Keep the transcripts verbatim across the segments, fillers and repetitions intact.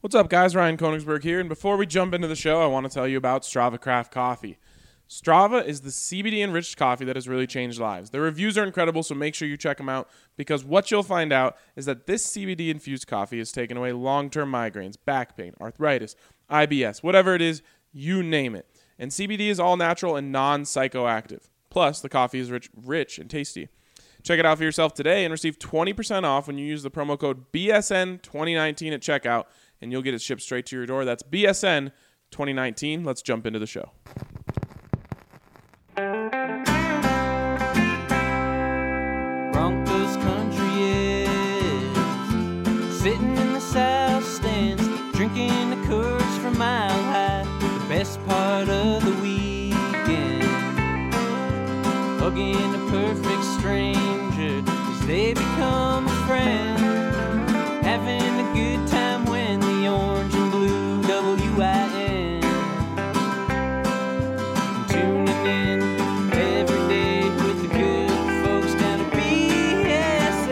What's up, guys? Ryan Koenigsberg here, and before we jump into the show, I want to tell you about Strava Craft Coffee. Strava is the C B D-enriched coffee that has really changed lives. Their reviews are incredible, so make sure you check them out, because what you'll find out is that this C B D-infused coffee has taken away long-term migraines, back pain, arthritis, I B S, whatever it is, you name it. And C B D is all natural and non-psychoactive. Plus, the coffee is rich, rich and tasty. Check it out for yourself today and receive twenty percent off when you use the promo code B S N twenty nineteen at checkout, and you'll get it shipped straight to your door. That's B S N twenty nineteen. Let's jump into the show. Broncos country is sitting in the south stands, drinking a Coors from Mile High. The best part of the weekend, hugging a perfect stranger as they become a friend, having a good time when the orange and blue W I N, tuning in every day with the good folks down at B S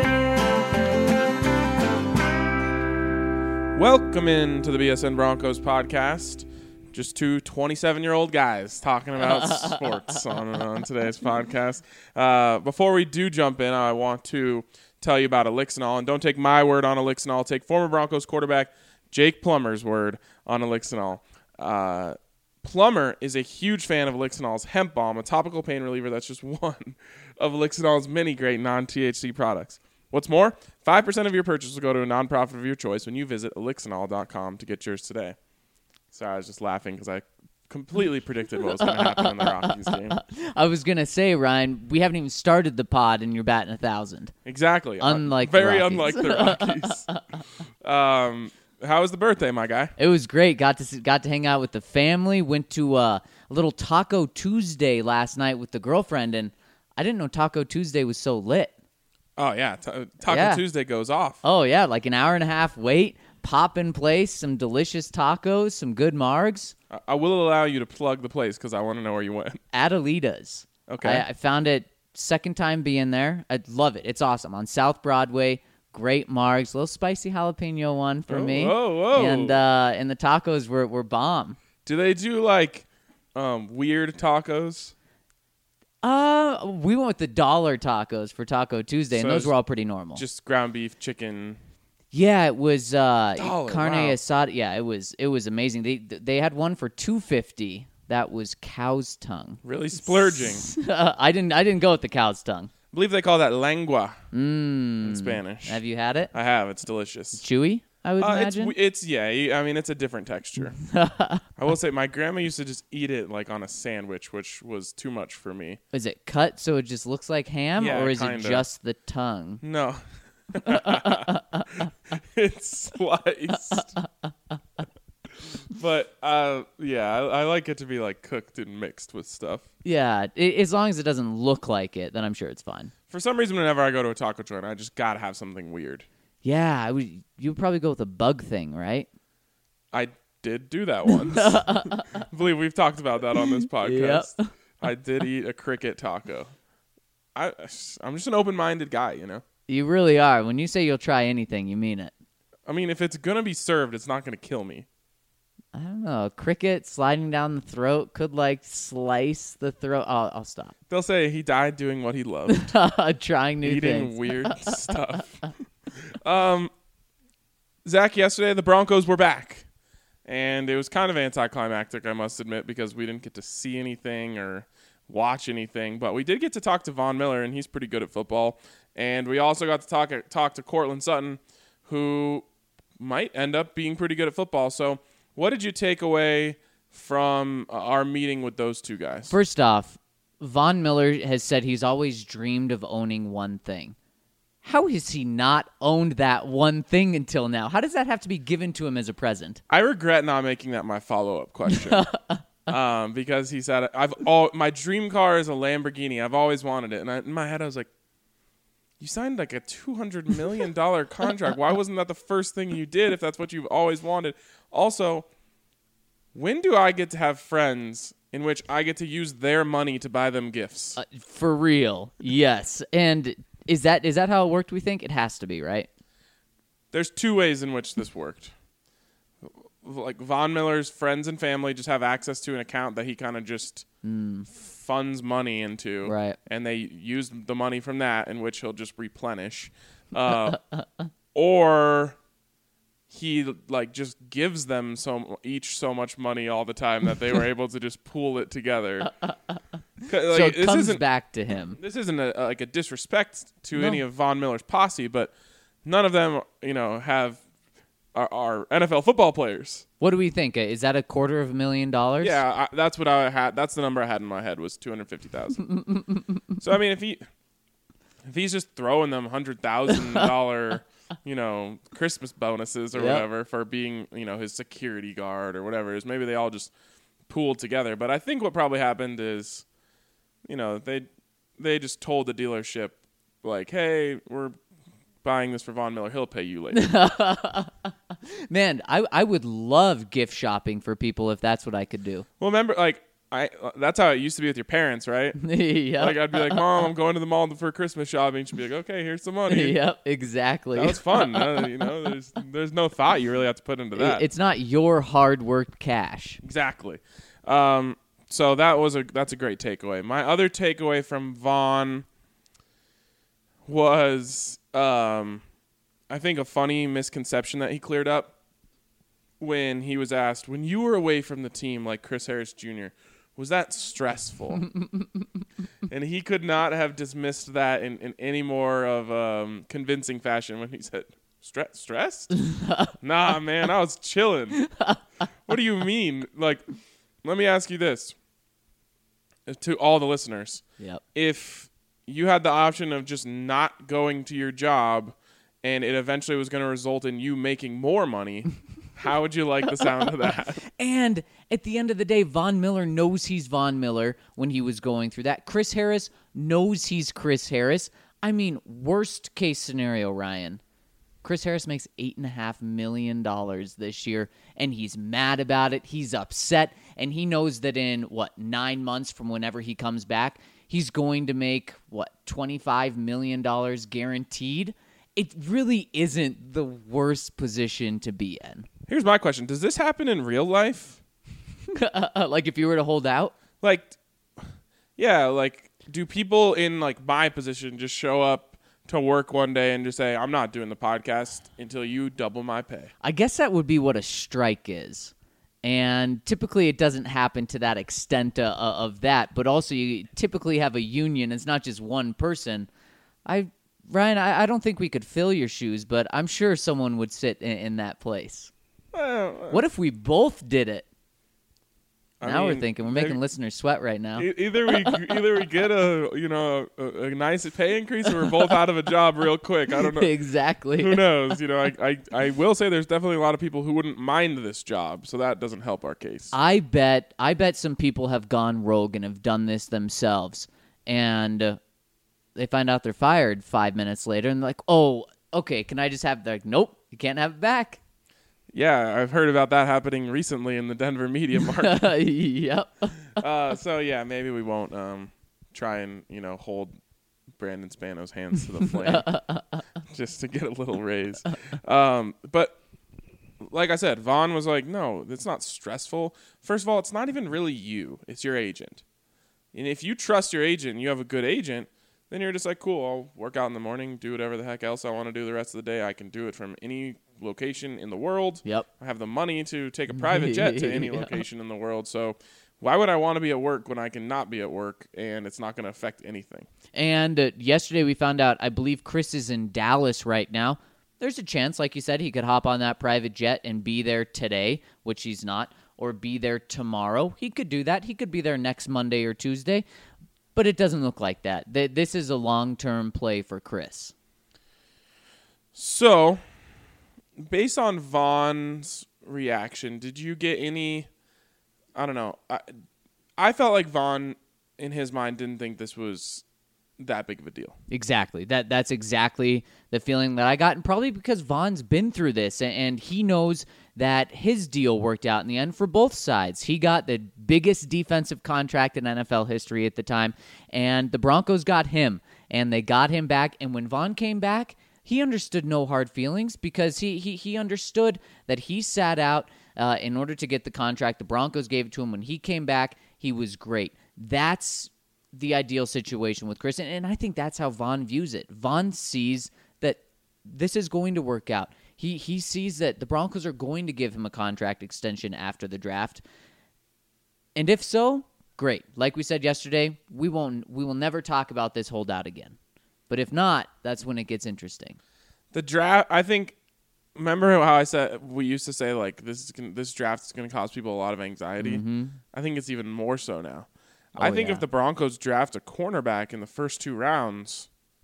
N. Welcome into the B S N Broncos podcast. Just two twenty-seven-year-old guys talking about sports on, on today's podcast. Uh, before we do jump in, I want to tell you about Elixinol. And don't take my word on Elixinol. Take former Broncos quarterback Jake Plummer's word on Elixinol. Uh, Plummer is a huge fan of Elixinol's hemp balm, a topical pain reliever that's just one of Elixinol's many great non-T H C products. What's more, five percent of your purchase will go to a nonprofit of your choice when you visit elixinol dot com to get yours today. Sorry, I was just laughing because I completely predicted what was going to happen in the Rockies game. I was going to say, Ryan, we haven't even started the pod and you're batting a thousand. Exactly. Unlike uh, Very the unlike the Rockies. um, how was the birthday, my guy? It was great. Got to see, got to hang out with the family. Went to uh, a little Taco Tuesday last night with the girlfriend, and I didn't know Taco Tuesday was so lit. Oh, yeah. T- Taco Yeah. Tuesday goes off. Oh, yeah, like an hour and a half wait, pop in place, some delicious tacos, some good margs. I-, I will allow you to plug the place because I want to know where you went. Adelita's. Okay. I, I found it second time being there. I love it. It's awesome. On South Broadway, great margs, little spicy jalapeno one for Oh, me. whoa, whoa. And uh, and the tacos were, were bomb. Do they do, like, um, weird tacos? Uh, we went with the dollar tacos for Taco Tuesday, and So those it's were all pretty normal. Just ground beef, chicken. Yeah, it was uh, Dollar, carne wow. asada. Yeah, it was it was amazing. They they had one for two fifty. That was cow's tongue. Really splurging. I didn't I didn't go with the cow's tongue. I believe they call that lengua Mm. in Spanish. Have you had it? I have. It's delicious. Chewy, I would Uh, it's, imagine. w- it's yeah. you- I mean, it's a different texture. I will say, my grandma used to just eat it like on a sandwich, which was too much for me. Is it cut so it just looks like ham, Yeah, or is kinda. it just the tongue? No, it's sliced. But uh, yeah, I, I like it to be like cooked and mixed with stuff. Yeah, I as long as it doesn't look like it, then I'm sure it's fine. For some reason, whenever I go to a taco joint, I just gotta have something weird. Yeah, I would. You would probably go with a bug thing, right? I did do that once. I believe we've talked about that on this podcast. Yep. I did eat a cricket taco. I, I'm just an open-minded guy, you know? You really are. When you say you'll try anything, you mean it. I mean, if it's going to be served, it's not going to kill me. I don't know. A cricket sliding down the throat could, like, slice the throat. I'll, I'll stop. They'll say he died doing what he loved, Trying new eating things. weird stuff. Um, Zach, yesterday the Broncos were back, and it was kind of anticlimactic, I must admit, because we didn't get to see anything or watch anything, but we did get to talk to Von Miller, and he's pretty good at football, and we also got to talk talk to Cortland Sutton, who might end up being pretty good at football. So what did you take away from uh, our meeting with those two guys? First off, Von Miller has said he's always dreamed of owning one thing. How has he not owned that one thing until now? How does that have to be given to him as a present? I regret not making that my follow-up question. um, because he said, I've all my dream car is a Lamborghini. I've always wanted it. And I, in my head, I was like, you signed like a two hundred million dollars contract. Why wasn't that the first thing you did if that's what you've always wanted? Also, when do I get to have friends in which I get to use their money to buy them gifts? Uh, for real, yes. And is that is that how it worked, we think? It has to be, right? There's two ways in which this worked. like Von Miller's friends and family just have access to an account that he kind of just Mm. funds money into, Right. and they use the money from that, in which he'll just replenish, uh, or he like just gives them so each so much money all the time that they were able to just pool it together. Like, so it this comes isn't back to him. this isn't a, a- like a disrespect to No. any of Von Miller's posse, but none of them, you know, have are, are N F L football players. What do we think? Uh, Is that a quarter of a million dollars? Yeah, I, that's what I had. That's the number I had in my head was two hundred fifty thousand. So I mean, if he if he's just throwing them hundred thousand dollar, you know, Christmas bonuses or Yep. whatever for being, you know, his security guard or whatever it is, maybe they all just pooled together. But I think what probably happened is, you know, they they just told the dealership like, hey, we're buying this for Von Miller. He'll pay you later. Man, I I would love gift shopping for people if that's what I could do. Well, remember, like, I uh, that's how it used to be with your parents, right? yeah. Like, I'd be like, Mom, I'm going to the mall for Christmas shopping. She'd be like, okay, here's some money. Yep, exactly. That was fun. uh, you know, there's there's no thought you really have to put into that. It's not your hard worked cash. Exactly. Um, so that was a that's a great takeaway. My other takeaway from Vaughn was, um, I think, a funny misconception that he cleared up when he was asked, when you were away from the team like Chris Harris Junior, was that stressful? And he could not have dismissed that in, in any more of um, convincing fashion when he said, Stre- stressed? Nah, man, I was chilling. What do you mean? Like, let me ask you this to all the listeners. Yep. If you had the option of just not going to your job and it eventually was going to result in you making more money, how would you like the sound of that? And at the end of the day, Von Miller knows he's Von Miller when he was going through that. Chris Harris knows he's Chris Harris. I mean, worst case scenario, Ryan. Chris Harris makes eight and a half million dollars this year, and he's mad about it. He's upset, and he knows that in what nine months from whenever he comes back, he's going to make what twenty-five million dollars guaranteed. It really isn't the worst position to be in. Here's my question. Does this happen in real life? Like if you were to hold out? Like, yeah, like, do people in, like, my position just show up to work one day and just say, I'm not doing the podcast until you double my pay? I guess that would be what a strike is. And typically it doesn't happen to that extent uh, of that, but also you typically have a union. It's not just one person. I Ryan, I, I don't think we could fill your shoes, but I'm sure someone would sit in, in that place. Well, What if we both did it? I Now we're mean, thinking. We're making maybe- listeners sweat right now. E- Either we either we get a you know a, a nice pay increase, or we're both out of a job real quick. I don't know. Exactly. Who knows? You know, I, I I will say there's definitely a lot of people who wouldn't mind this job, so that doesn't help our case. I bet I bet some people have gone rogue and have done this themselves, and uh, they find out they're fired five minutes later, and they're like, "Oh, okay, can I just have?" They're like, "Nope, you can't have it back." Yeah, I've heard about that happening recently in the Denver media market. Yep. uh, so yeah, maybe we won't um, try and you know hold Brandon Spano's hands to the flame just to get a little raise. Um, but like I said, Vaughn was like, no, it's not stressful. First of all, it's not even really you. It's your agent. And if you trust your agent and you have a good agent, then you're just like, cool, I'll work out in the morning, do whatever the heck else I want to do the rest of the day. I can do it from any location in the world. Yep. I have the money to take a private jet to any Yeah. location in the world. So why would I want to be at work when I can not be at work and it's not going to affect anything? And uh, yesterday we found out, I believe Chris is in Dallas right now. There's a chance, like you said, he could hop on that private jet and be there today, which he's not, or be there tomorrow. He could do that. He could be there next Monday or Tuesday, but it doesn't look like that. Th- This is a long-term play for Chris. So, based on Vaughn's reaction, did you get any, I don't know, I, I felt like Vaughn, in his mind, didn't think this was that big of a deal. Exactly. That That's exactly the feeling that I got, and probably because Vaughn's been through this, and, and he knows that his deal worked out in the end for both sides. He got the biggest defensive contract in N F L history at the time, and the Broncos got him, and they got him back, and when Vaughn came back, he understood no hard feelings because he he he understood that he sat out uh, in order to get the contract. The Broncos gave it to him. When he came back, he was great. That's the ideal situation with Chris, and, and I think that's how Von views it. Von sees that this is going to work out. He he sees that the Broncos are going to give him a contract extension after the draft. And if so, great. Like we said yesterday, we won't we will never talk about this holdout again. But if not, that's when it gets interesting. The draft, I think, remember how I said we used to say like this is gonna, this draft is going to cause people a lot of anxiety? Mm-hmm. I think it's even more so now. Oh, I think yeah. if the Broncos draft a cornerback in the first two rounds,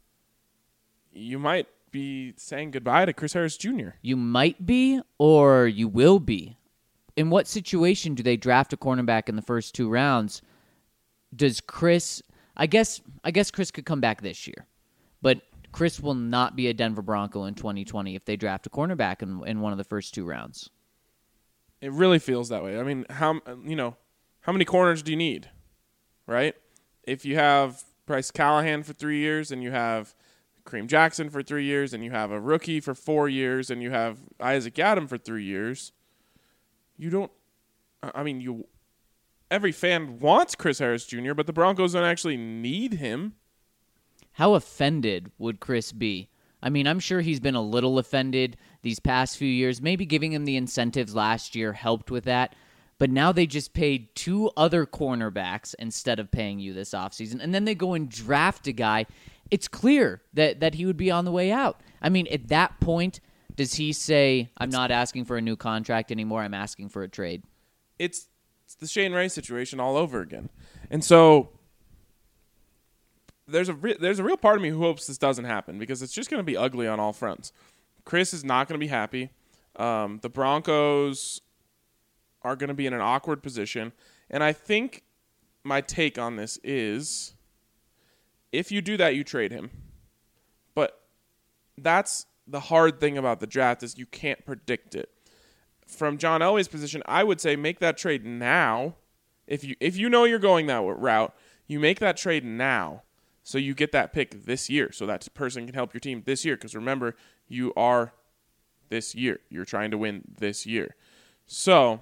you might be saying goodbye to Chris Harris Junior You might be, or you will be. In what situation do they draft a cornerback in the first two rounds? Does Chris? I guess. I guess Chris could come back this year, but Chris will not be a Denver Bronco in twenty twenty if they draft a cornerback in, in one of the first two rounds. It really feels that way. I mean, how you know, how many corners do you need, right? If you have Bryce Callahan for three years and you have Kareem Jackson for three years and you have a rookie for four years and you have Isaac Adam for three years, you don't. I mean, you. Every fan wants Chris Harris Junior, but the Broncos don't actually need him. How offended would Chris be? I mean, I'm sure he's been a little offended these past few years. Maybe giving him the incentives last year helped with that. But now they just paid two other cornerbacks instead of paying you this offseason. And then they go and draft a guy. It's clear that, that he would be on the way out. I mean, at that point, does he say, I'm not asking for a new contract anymore, I'm asking for a trade? It's, it's the Shane Ray situation all over again. And so there's a re- there's a real part of me who hopes this doesn't happen because it's just going to be ugly on all fronts. Chris is not going to be happy. Um, the Broncos are going to be in an awkward position. And I think my take on this is if you do that, you trade him. But that's the hard thing about the draft is you can't predict it. From John Elway's position, I would say make that trade now. If you if you know you're going that route, you make that trade now so you get that pick this year so that person can help your team this year. Because remember, you are this year. You're trying to win this year. So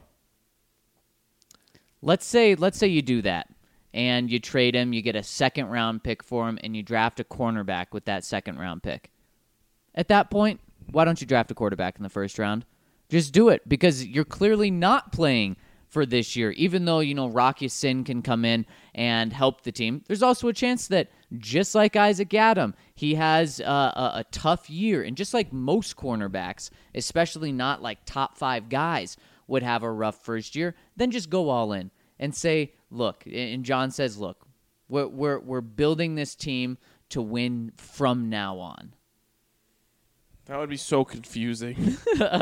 let's say let's say you do that and you trade him, you get a second round pick for him, and you draft a cornerback with that second round pick. At that point, why don't you draft a quarterback in the first round? Just do it because you're clearly not playing for this year. Even though, you know, Rocky Sin can come in and help the team, there's also a chance that just like Isaac Adam, he has uh, a, a tough year. And just like most cornerbacks, especially not like top five guys, would have a rough first year, then just go all in and say, look, and John says, look, we're we're, we're building this team to win from now on. that would be so confusing.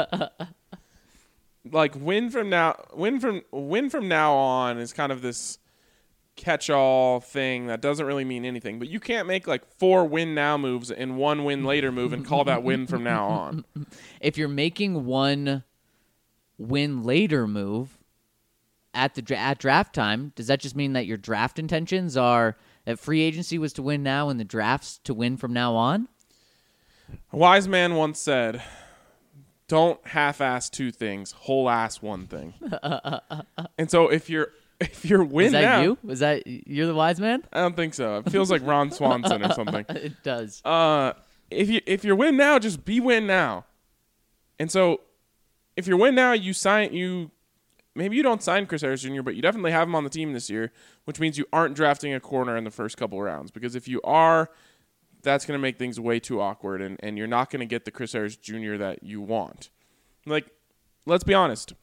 Like win from now, win from win from now on is kind of this catch-all thing that doesn't really mean anything. But you can't make like four win now moves and one win later move and call that win from now on. If you're making one win later move at the dra- at draft time, does that just mean that your draft intentions are that free agency was to win now and the drafts to win from now on? A wise man once said, don't half-ass two things, whole-ass one thing. And so if you're if you're win Is that now, you? Was that you're the wise man? I don't think so. It feels like Ron Swanson or something. It does. Uh, if you if you're win now, just be win now. And so if you're win now, you sign you. Maybe you don't sign Chris Harris Junior, but you definitely have him on the team this year, which means you aren't drafting a corner in the first couple rounds. Because if you are, that's going to make things way too awkward, and, and you're not going to get the Chris Harris Junior that you want. Like, let's be honest.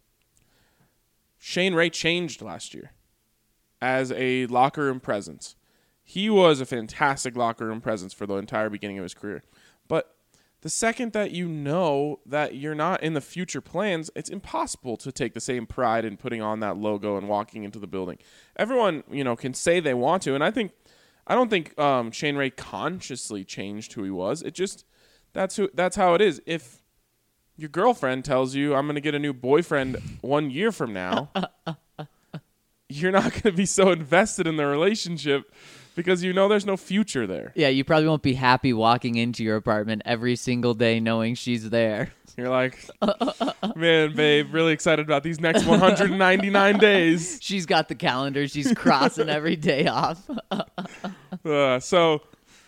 Shane Ray changed last year as a locker room presence. He was a fantastic locker room presence for the entire beginning of his career. But the second that you know that you're not in the future plans, it's impossible to take the same pride in putting on that logo and walking into the building. Everyone, you know, can say they want to, and I think I don't think um, Shane Ray consciously changed who he was. It just that's who that's how it is. If your girlfriend tells you, I'm going to get a new boyfriend one year from now, you're not going to be so invested in the relationship because you know there's no future there. Yeah, you probably won't be happy walking into your apartment every single day knowing she's there. You're like, man, babe, really excited about these next one hundred ninety-nine days. She's got the calendar. She's crossing every day off. uh, so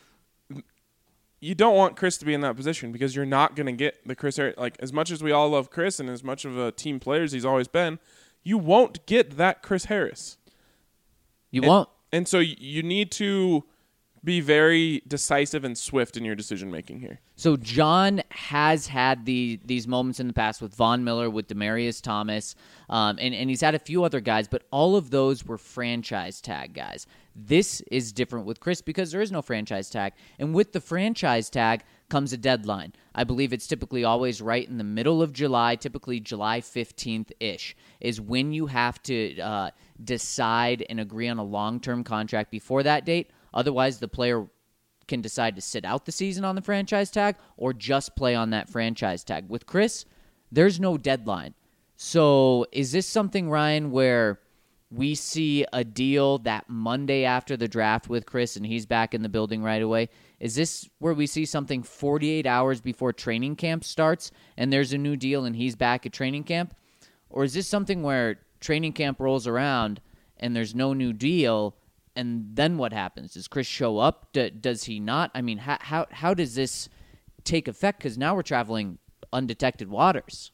you don't want Chris to be in that position because you're not going to get the Chris Harris. Like, as much as we all love Chris and as much of a team player as he's always been, you won't get that Chris Harris. You and, won't. And so you need to be very decisive and swift in your decision-making here. So John has had the these moments in the past with Von Miller, with Demaryius Thomas, um, and, and he's had a few other guys, but all of those were franchise tag guys. This is different with Chris because there is no franchise tag. And with the franchise tag comes a deadline. I believe it's typically always right in the middle of July, typically July fifteenth-ish, is when you have to uh, decide and agree on a long-term contract before that date. Otherwise, the player can decide to sit out the season on the franchise tag or just play on that franchise tag. With Chris, there's no deadline. So is this something, Ryan, where we see a deal that Monday after the draft with Chris and he's back in the building right away? Is this where we see something forty-eight hours before training camp starts and there's a new deal and he's back at training camp? Or is this something where training camp rolls around and there's no new deal, and then what happens? Does Chris show up? D- does he not? I mean, how how, how does this take effect? Because now we're traveling undetected waters.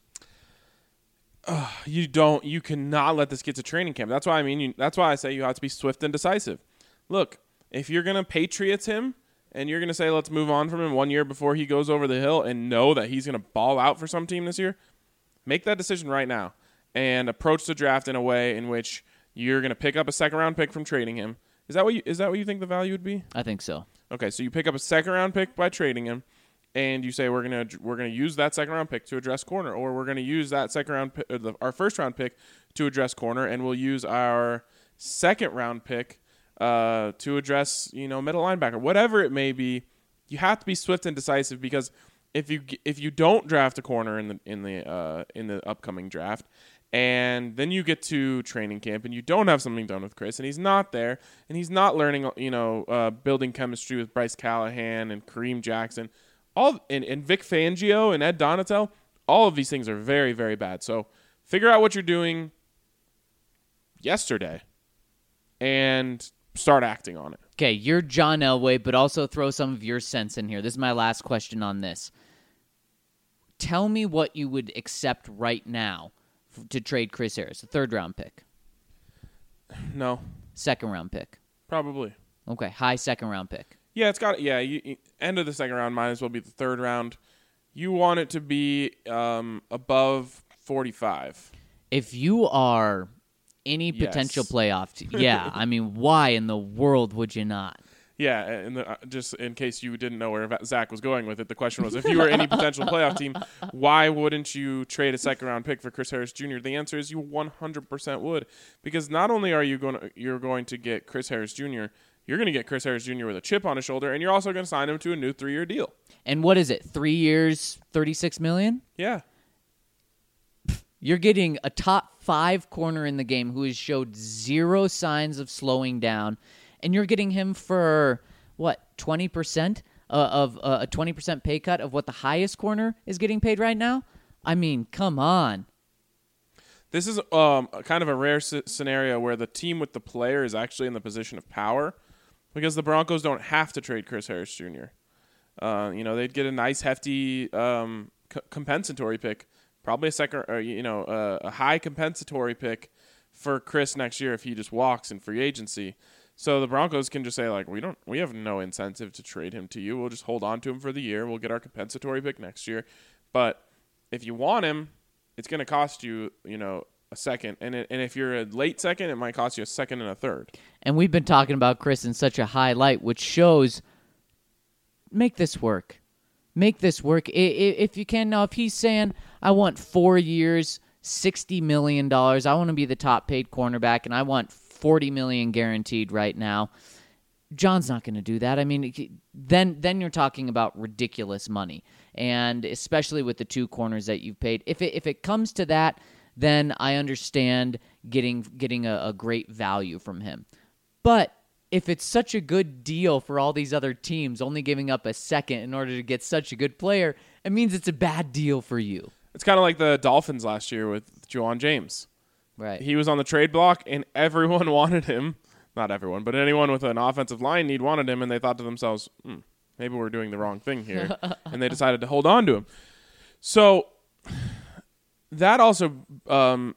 Uh, you don't. You cannot let this get to training camp. That's why I mean. You, that's why I say you have to be swift and decisive. Look, if you're gonna Patriots him and you're gonna say let's move on from him one year before he goes over the hill and know that he's gonna ball out for some team this year, make that decision right now and approach the draft in a way in which you're gonna pick up a second round pick from trading him. Is that what you, is that what you think the value would be? I think so. Okay, so you pick up a second round pick by trading him, and you say we're gonna we're gonna use that second round pick to address corner, or we're gonna use that second round pick, or the, our first round pick to address corner, and we'll use our second round pick uh, to address you know middle linebacker, whatever it may be. You have to be swift and decisive because if you if you don't draft a corner in the in the uh, in the upcoming draft, and then you get to training camp and you don't have something done with Chris and he's not there and he's not learning, you know, uh, building chemistry with Bryce Callahan and Kareem Jackson, all and, and Vic Fangio and Ed Donatel, all of these things are very, very bad. So figure out what you're doing yesterday and start acting on it. Okay, you're John Elway, but also throw some of your sense in here. This is my last question on this. Tell me what you would accept right now to trade Chris Harris, a third-round pick. No. Second-round pick. Probably. Okay, high second-round pick. Yeah, it's got. Yeah, you, you, end of the second round might as well be the third round. You want it to be um, above forty-five. If you are any potential Yes. playoff team, yeah, I mean, why in the world would you not? Yeah, and the, uh, just in case you didn't know where Zach was going with it, the question was, if you were any potential playoff team, why wouldn't you trade a second-round pick for Chris Harris Junior? The answer is you one hundred percent would, because not only are you going to, you're going to get Chris Harris Junior, you're going to get Chris Harris Junior with a chip on his shoulder, and you're also going to sign him to a new three-year deal. And what is it? Three years, thirty-six million dollars? Yeah. You're getting a top five corner in the game who has showed zero signs of slowing down, and you're getting him for, what, twenty percent uh, of uh, a twenty percent pay cut of what the highest corner is getting paid right now? I mean, come on. This is um, kind of a rare c- scenario where the team with the player is actually in the position of power because the Broncos don't have to trade Chris Harris Junior Uh, you know, they'd get a nice, hefty um, c- compensatory pick, probably a second, or, you know, uh, a high compensatory pick for Chris next year if he just walks in free agency. So the Broncos can just say, like, we don't, we have no incentive to trade him to you. We'll just hold on to him for the year. We'll get our compensatory pick next year. But if you want him, it's going to cost you, you know, a second. And it, and if you're a late second, it might cost you a second and a third. And we've been talking about Chris in such a high light, which shows, make this work. Make this work. I, I, if you can. Now, if he's saying, I want four years, sixty million dollars, I want to be the top paid cornerback, and I want forty million dollars guaranteed right now, John's not going to do that. I mean, then then you're talking about ridiculous money, and especially with the two corners that you've paid. If it if it comes to that, then I understand getting getting a, a great value from him. But if it's such a good deal for all these other teams, only giving up a second in order to get such a good player, it means it's a bad deal for you. It's kind of like the Dolphins last year with Juwan James. Right. He was on the trade block, and everyone wanted him. Not everyone, but anyone with an offensive line need wanted him, and they thought to themselves, hmm, maybe we're doing the wrong thing here. And they decided to hold on to him. So that also um,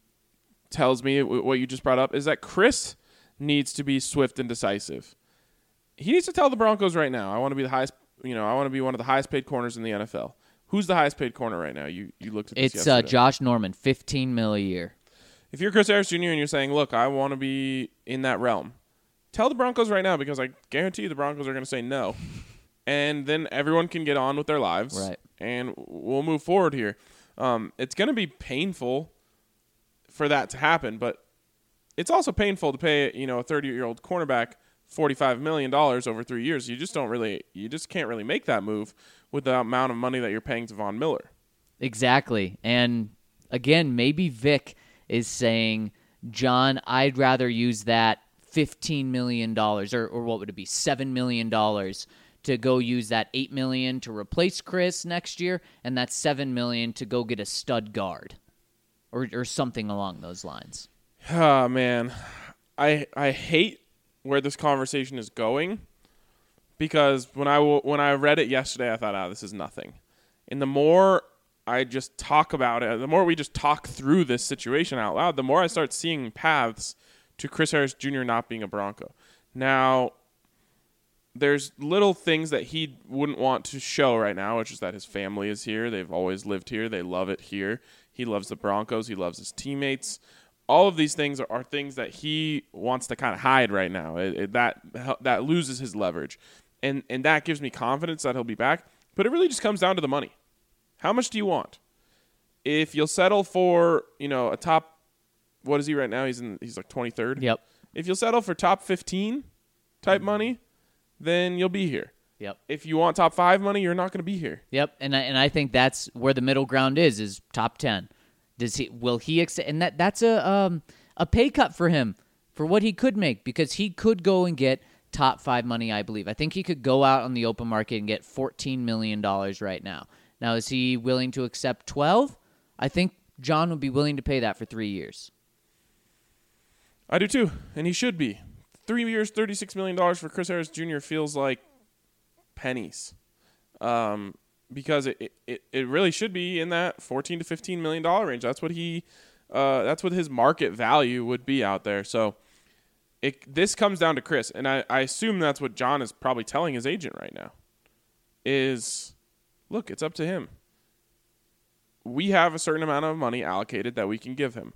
tells me w- what you just brought up is that Chris needs to be swift and decisive. He needs to tell the Broncos right now, I want to be the highest, you know, I want to be one of the highest paid corners in the N F L. Who's the highest paid corner right now? You you looked at this It's uh, yesterday. Josh Norman, fifteen mil a year. If you're Chris Harris Junior and you're saying, look, I want to be in that realm, tell the Broncos right now, because I guarantee you the Broncos are going to say no. And then everyone can get on with their lives. Right. And we'll move forward here. Um, it's going to be painful for that to happen, but it's also painful to pay, you know, a thirty-year-old cornerback forty-five million dollars over three years. You just don't really, you just can't really make that move with the amount of money that you're paying to Von Miller. Exactly. And again, maybe Vic is saying, John, I'd rather use that fifteen million dollars, or, or what would it be, seven million dollars to go use that eight million dollars to replace Chris next year, and that seven million dollars to go get a stud guard, or or something along those lines. Ah, man. I I hate where this conversation is going, because when I, when I read it yesterday, I thought, oh, this is nothing. And the more I just talk about it, the more we just talk through this situation out loud, the more I start seeing paths to Chris Harris Junior not being a Bronco. Now, there's little things that he wouldn't want to show right now, which is that his family is here. They've always lived here. They love it here. He loves the Broncos. He loves his teammates. All of these things are, are things that he wants to kind of hide right now. It, it, that that loses his leverage. And, and that gives me confidence that he'll be back. But it really just comes down to the money. How much do you want? If you'll settle for, you know, a top, what is he right now? He's in. He's like twenty-third. Yep. If you'll settle for top fifteen type money, then you'll be here. Yep. If you want top five money, you're not going to be here. Yep. And I, and I think that's where the middle ground is, is top ten. Does he, will he accept, and that, that's a, um, a pay cut for him for what he could make, because he could go and get top five money, I believe. I think he could go out on the open market and get fourteen million dollars right now. Now, is he willing to accept twelve? I think John would be willing to pay that for three years. I do too, and he should be. Three years, thirty-six million dollars for Chris Harris Junior feels like pennies, um, because it, it it really should be in that fourteen to fifteen million dollar range. That's what he, uh, that's what his market value would be out there. So, it this comes down to Chris, and I, I assume that's what John is probably telling his agent right now. Is, look, it's up to him. We have a certain amount of money allocated that we can give him.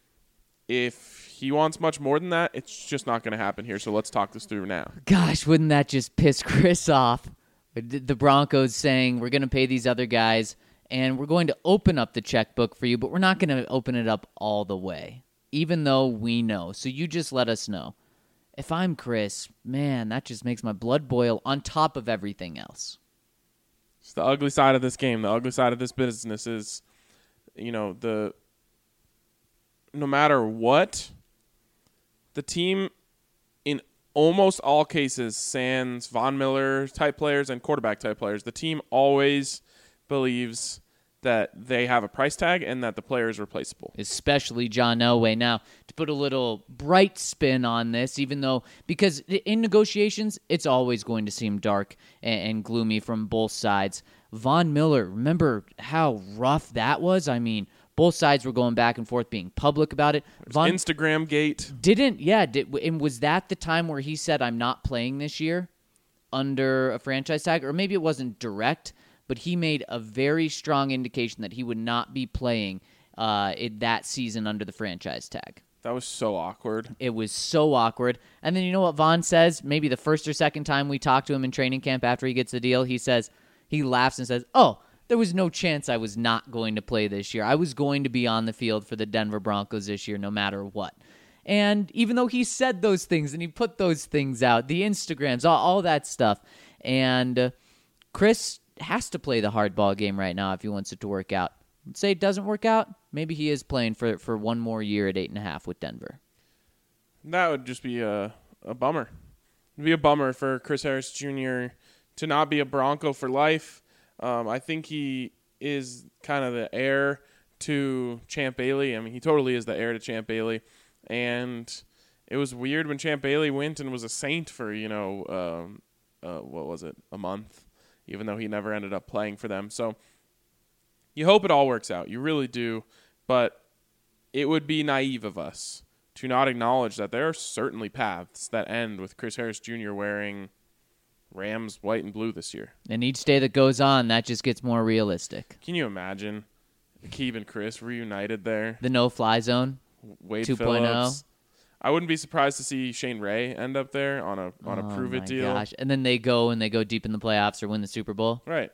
If he wants much more than that, it's just not going to happen here. So let's talk this through now. Gosh, wouldn't that just piss Chris off? The Broncos saying, we're going to pay these other guys, and we're going to open up the checkbook for you, but we're not going to open it up all the way, even though we know. So you just let us know. If I'm Chris, man, that just makes my blood boil on top of everything else. It's the ugly side of this game. The ugly side of this business is, you know, the no matter what, the team in almost all cases, sans Von Miller type players and quarterback type players, the team always believes that they have a price tag and that the player is replaceable. Especially John Elway. Now, to put a little bright spin on this, even though, because in negotiations, it's always going to seem dark and, and gloomy from both sides. Von Miller, remember how rough that was? I mean, both sides were going back and forth, being public about it. Von Instagram gate. Didn't, yeah, did, and was that the time where he said, I'm not playing this year under a franchise tag? Or maybe it wasn't direct, but he made a very strong indication that he would not be playing uh, it, that season under the franchise tag. That was so awkward. It was so awkward. And then you know what Von says? Maybe the first or second time we talked to him in training camp after he gets the deal, he says, he laughs and says, oh, there was no chance I was not going to play this year. I was going to be on the field for the Denver Broncos this year no matter what. And even though he said those things and he put those things out, the Instagrams, all, all that stuff, and uh, Chris has to play the hardball game right now if he wants it to work out. Let's say it doesn't work out, maybe he is playing for, for one more year at eight and a half with Denver. That would just be a, a bummer. It'd be a bummer for Chris Harris Junior to not be a Bronco for life. Um, I think he is kind of the heir to Champ Bailey. I mean, he totally is the heir to Champ Bailey. And it was weird when Champ Bailey went and was a Saint for, you know, um, uh, what was it, a month, even though he never ended up playing for them. So you hope it all works out. You really do. But it would be naive of us to not acknowledge that there are certainly paths that end with Chris Harris Junior wearing Rams white and blue this year. And each day that goes on, that just gets more realistic. Can you imagine Keeb and Chris reunited there? The no-fly zone, Wade two point oh. Phillips. I wouldn't be surprised to see Shane Ray end up there on a on a oh prove it my deal. Gosh. And then they go and they go deep in the playoffs or win the Super Bowl. Right.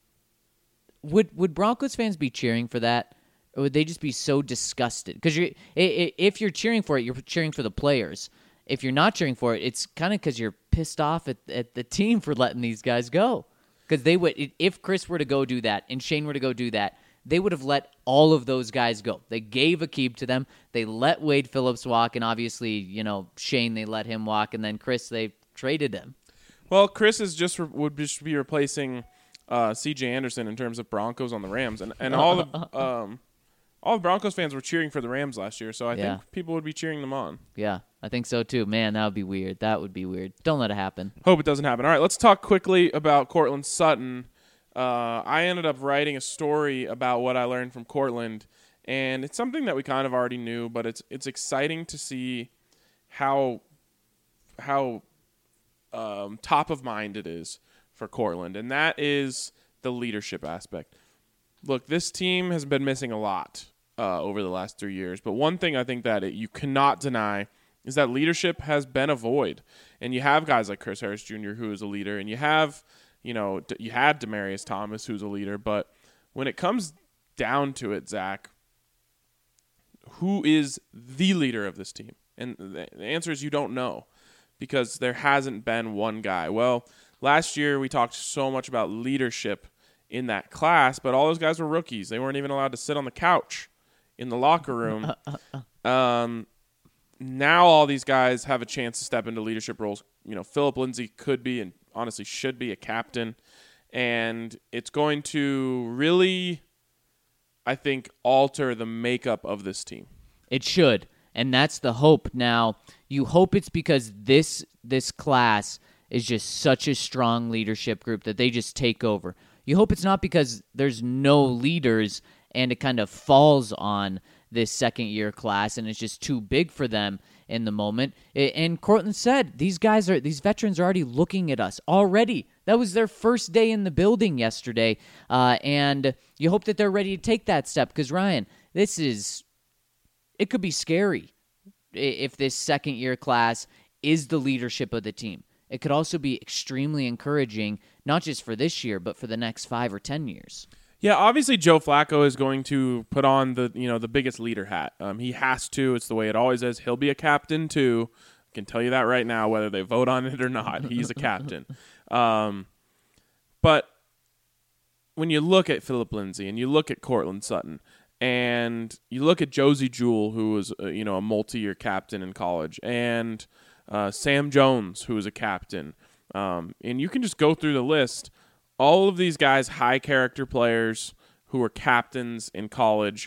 Would would Broncos fans be cheering for that? Or would they just be so disgusted? Because you, if you're cheering for it, you're cheering for the players. If you're not cheering for it, it's kind of because you're pissed off at, at the team for letting these guys go. Because they would, if Chris were to go do that and Shane were to go do that, they would have let all of those guys go. They gave Aqib to them. They let Wade Phillips walk, and obviously, you know, Shane, they let him walk, and then Chris, they traded him. Well, Chris is just re- would just be replacing uh, C J Anderson in terms of Broncos on the Rams, and and all the um, all the Broncos fans were cheering for the Rams last year, so I Yeah. think people would be cheering them on. Yeah, I think so too. Man, that would be weird. That would be weird. Don't let it happen. Hope it doesn't happen. All right, let's talk quickly about Cortland Sutton. Uh, I ended up writing a story about what I learned from Cortland, and it's something that we kind of already knew, but it's it's exciting to see how how um, top of mind it is for Cortland, and that is the leadership aspect. Look, this team has been missing a lot uh, over the last three years, but one thing I think that it, you cannot deny is that leadership has been a void, and you have guys like Chris Harris Junior who is a leader, and you have, you know, you had Demaryius Thomas who's a leader, but when it comes down to it, Zach, who is the leader of this team? And the answer is you don't know, because there hasn't been one guy. Well, last year we talked so much about leadership in that class, but all those guys were rookies. They weren't even allowed to sit on the couch in the locker room. Um, now all these guys have a chance to step into leadership roles. You know, Philip Lindsay could be and honestly should be a captain, and it's going to really, I think, alter the makeup of this team. It should, and that's the hope. Now, you hope it's because this this class is just such a strong leadership group that they just take over. You hope it's not because there's no leaders and it kind of falls on this second-year class and it's just too big for them in the moment. And Cortland said, these guys are, these veterans are already looking at us already. That was their first day in the building yesterday, uh, and you hope that they're ready to take that step because, Ryan, this is, it could be scary if this second-year class is the leadership of the team. It could also be extremely encouraging, not just for this year, but for the next five or ten years. Yeah, obviously Joe Flacco is going to put on the you know the biggest leader hat. Um, he has to. It's the way it always is. He'll be a captain too. I can tell you that right now, whether they vote on it or not. He's a captain. Um, but when you look at Philip Lindsay and you look at Cortland Sutton and you look at Josie Jewell, who was uh, you know a multi-year captain in college, and uh, Sam Jones, who was a captain, um, and you can just go through the list. All of these guys, high character players who were captains in college,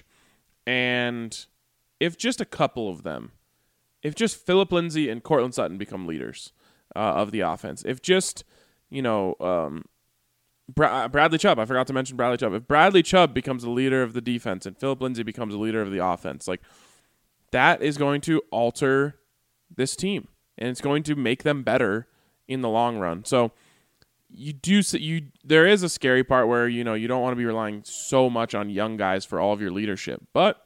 and if just a couple of them, if just Philip Lindsay and Cortland Sutton become leaders uh, of the offense, if just, you know, um, Bra- Bradley Chubb, I forgot to mention Bradley Chubb, if Bradley Chubb becomes a leader of the defense and Philip Lindsay becomes a leader of the offense, like that is going to alter this team, and it's going to make them better in the long run. So, You do you there is a scary part where you know you don't want to be relying so much on young guys for all of your leadership. But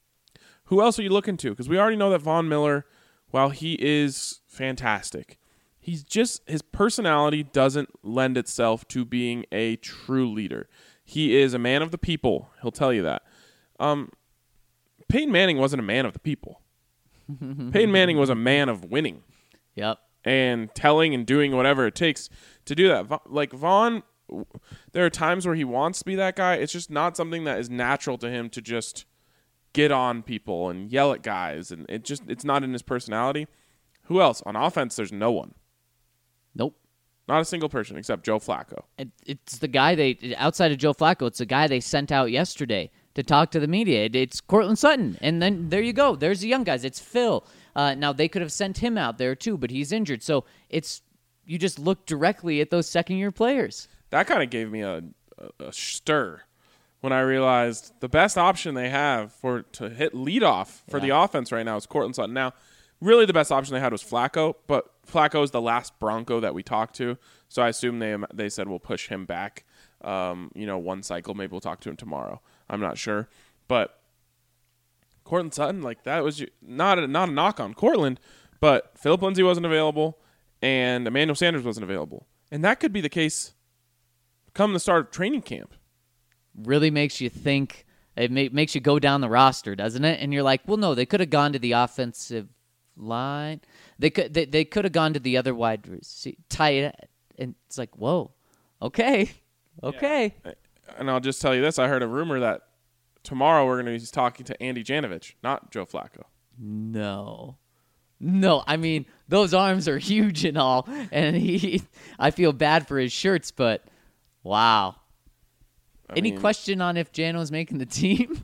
who else are you looking to? Because we already know that Von Miller, while he is fantastic, he's just his personality doesn't lend itself to being a true leader. He is a man of the people. He'll tell you that. Um, Peyton Manning wasn't a man of the people. Peyton Manning was a man of winning. Yep. And telling and doing whatever it takes to do that. Like Vaughn, there are times where he wants to be that guy. It's just not something that is natural to him to just get on people and yell at guys. And it just it's not in his personality. Who else? On offense, there's no one. Nope. Not a single person except Joe Flacco. It, it's the guy they, outside of Joe Flacco, it's the guy they sent out yesterday to talk to the media. It, it's Cortland Sutton. And then there you go. There's the young guys. It's Phil. Uh, now, they could have sent him out there too, but he's injured. So it's you just look directly at those second-year players. That kind of gave me a, a, a stir when I realized the best option they have for to hit leadoff for Yeah. the offense right now is Cortland Sutton. Now, really the best option they had was Flacco, but Flacco is the last Bronco that we talked to, so I assume they they said we'll push him back, um, you know, one cycle. Maybe we'll talk to him tomorrow. I'm not sure, but Cortland Sutton, like that was not a, not a knock on Cortland, but Philip Lindsay wasn't available and Emmanuel Sanders wasn't available, and that could be the case come the start of training camp. Really makes you think. It ma- makes you go down the roster, doesn't it? And you're like, well, no, they could have gone to the offensive line. They could they, they could have gone to the other wide receiver, tight, and it's like, whoa, okay, okay. Yeah. And I'll just tell you this: I heard a rumor that tomorrow we're going to be talking to Andy Janovich, not Joe Flacco. No. No, I mean, those arms are huge and all, and he I feel bad for his shirts, but wow. I Any mean, question on if Jano's making the team?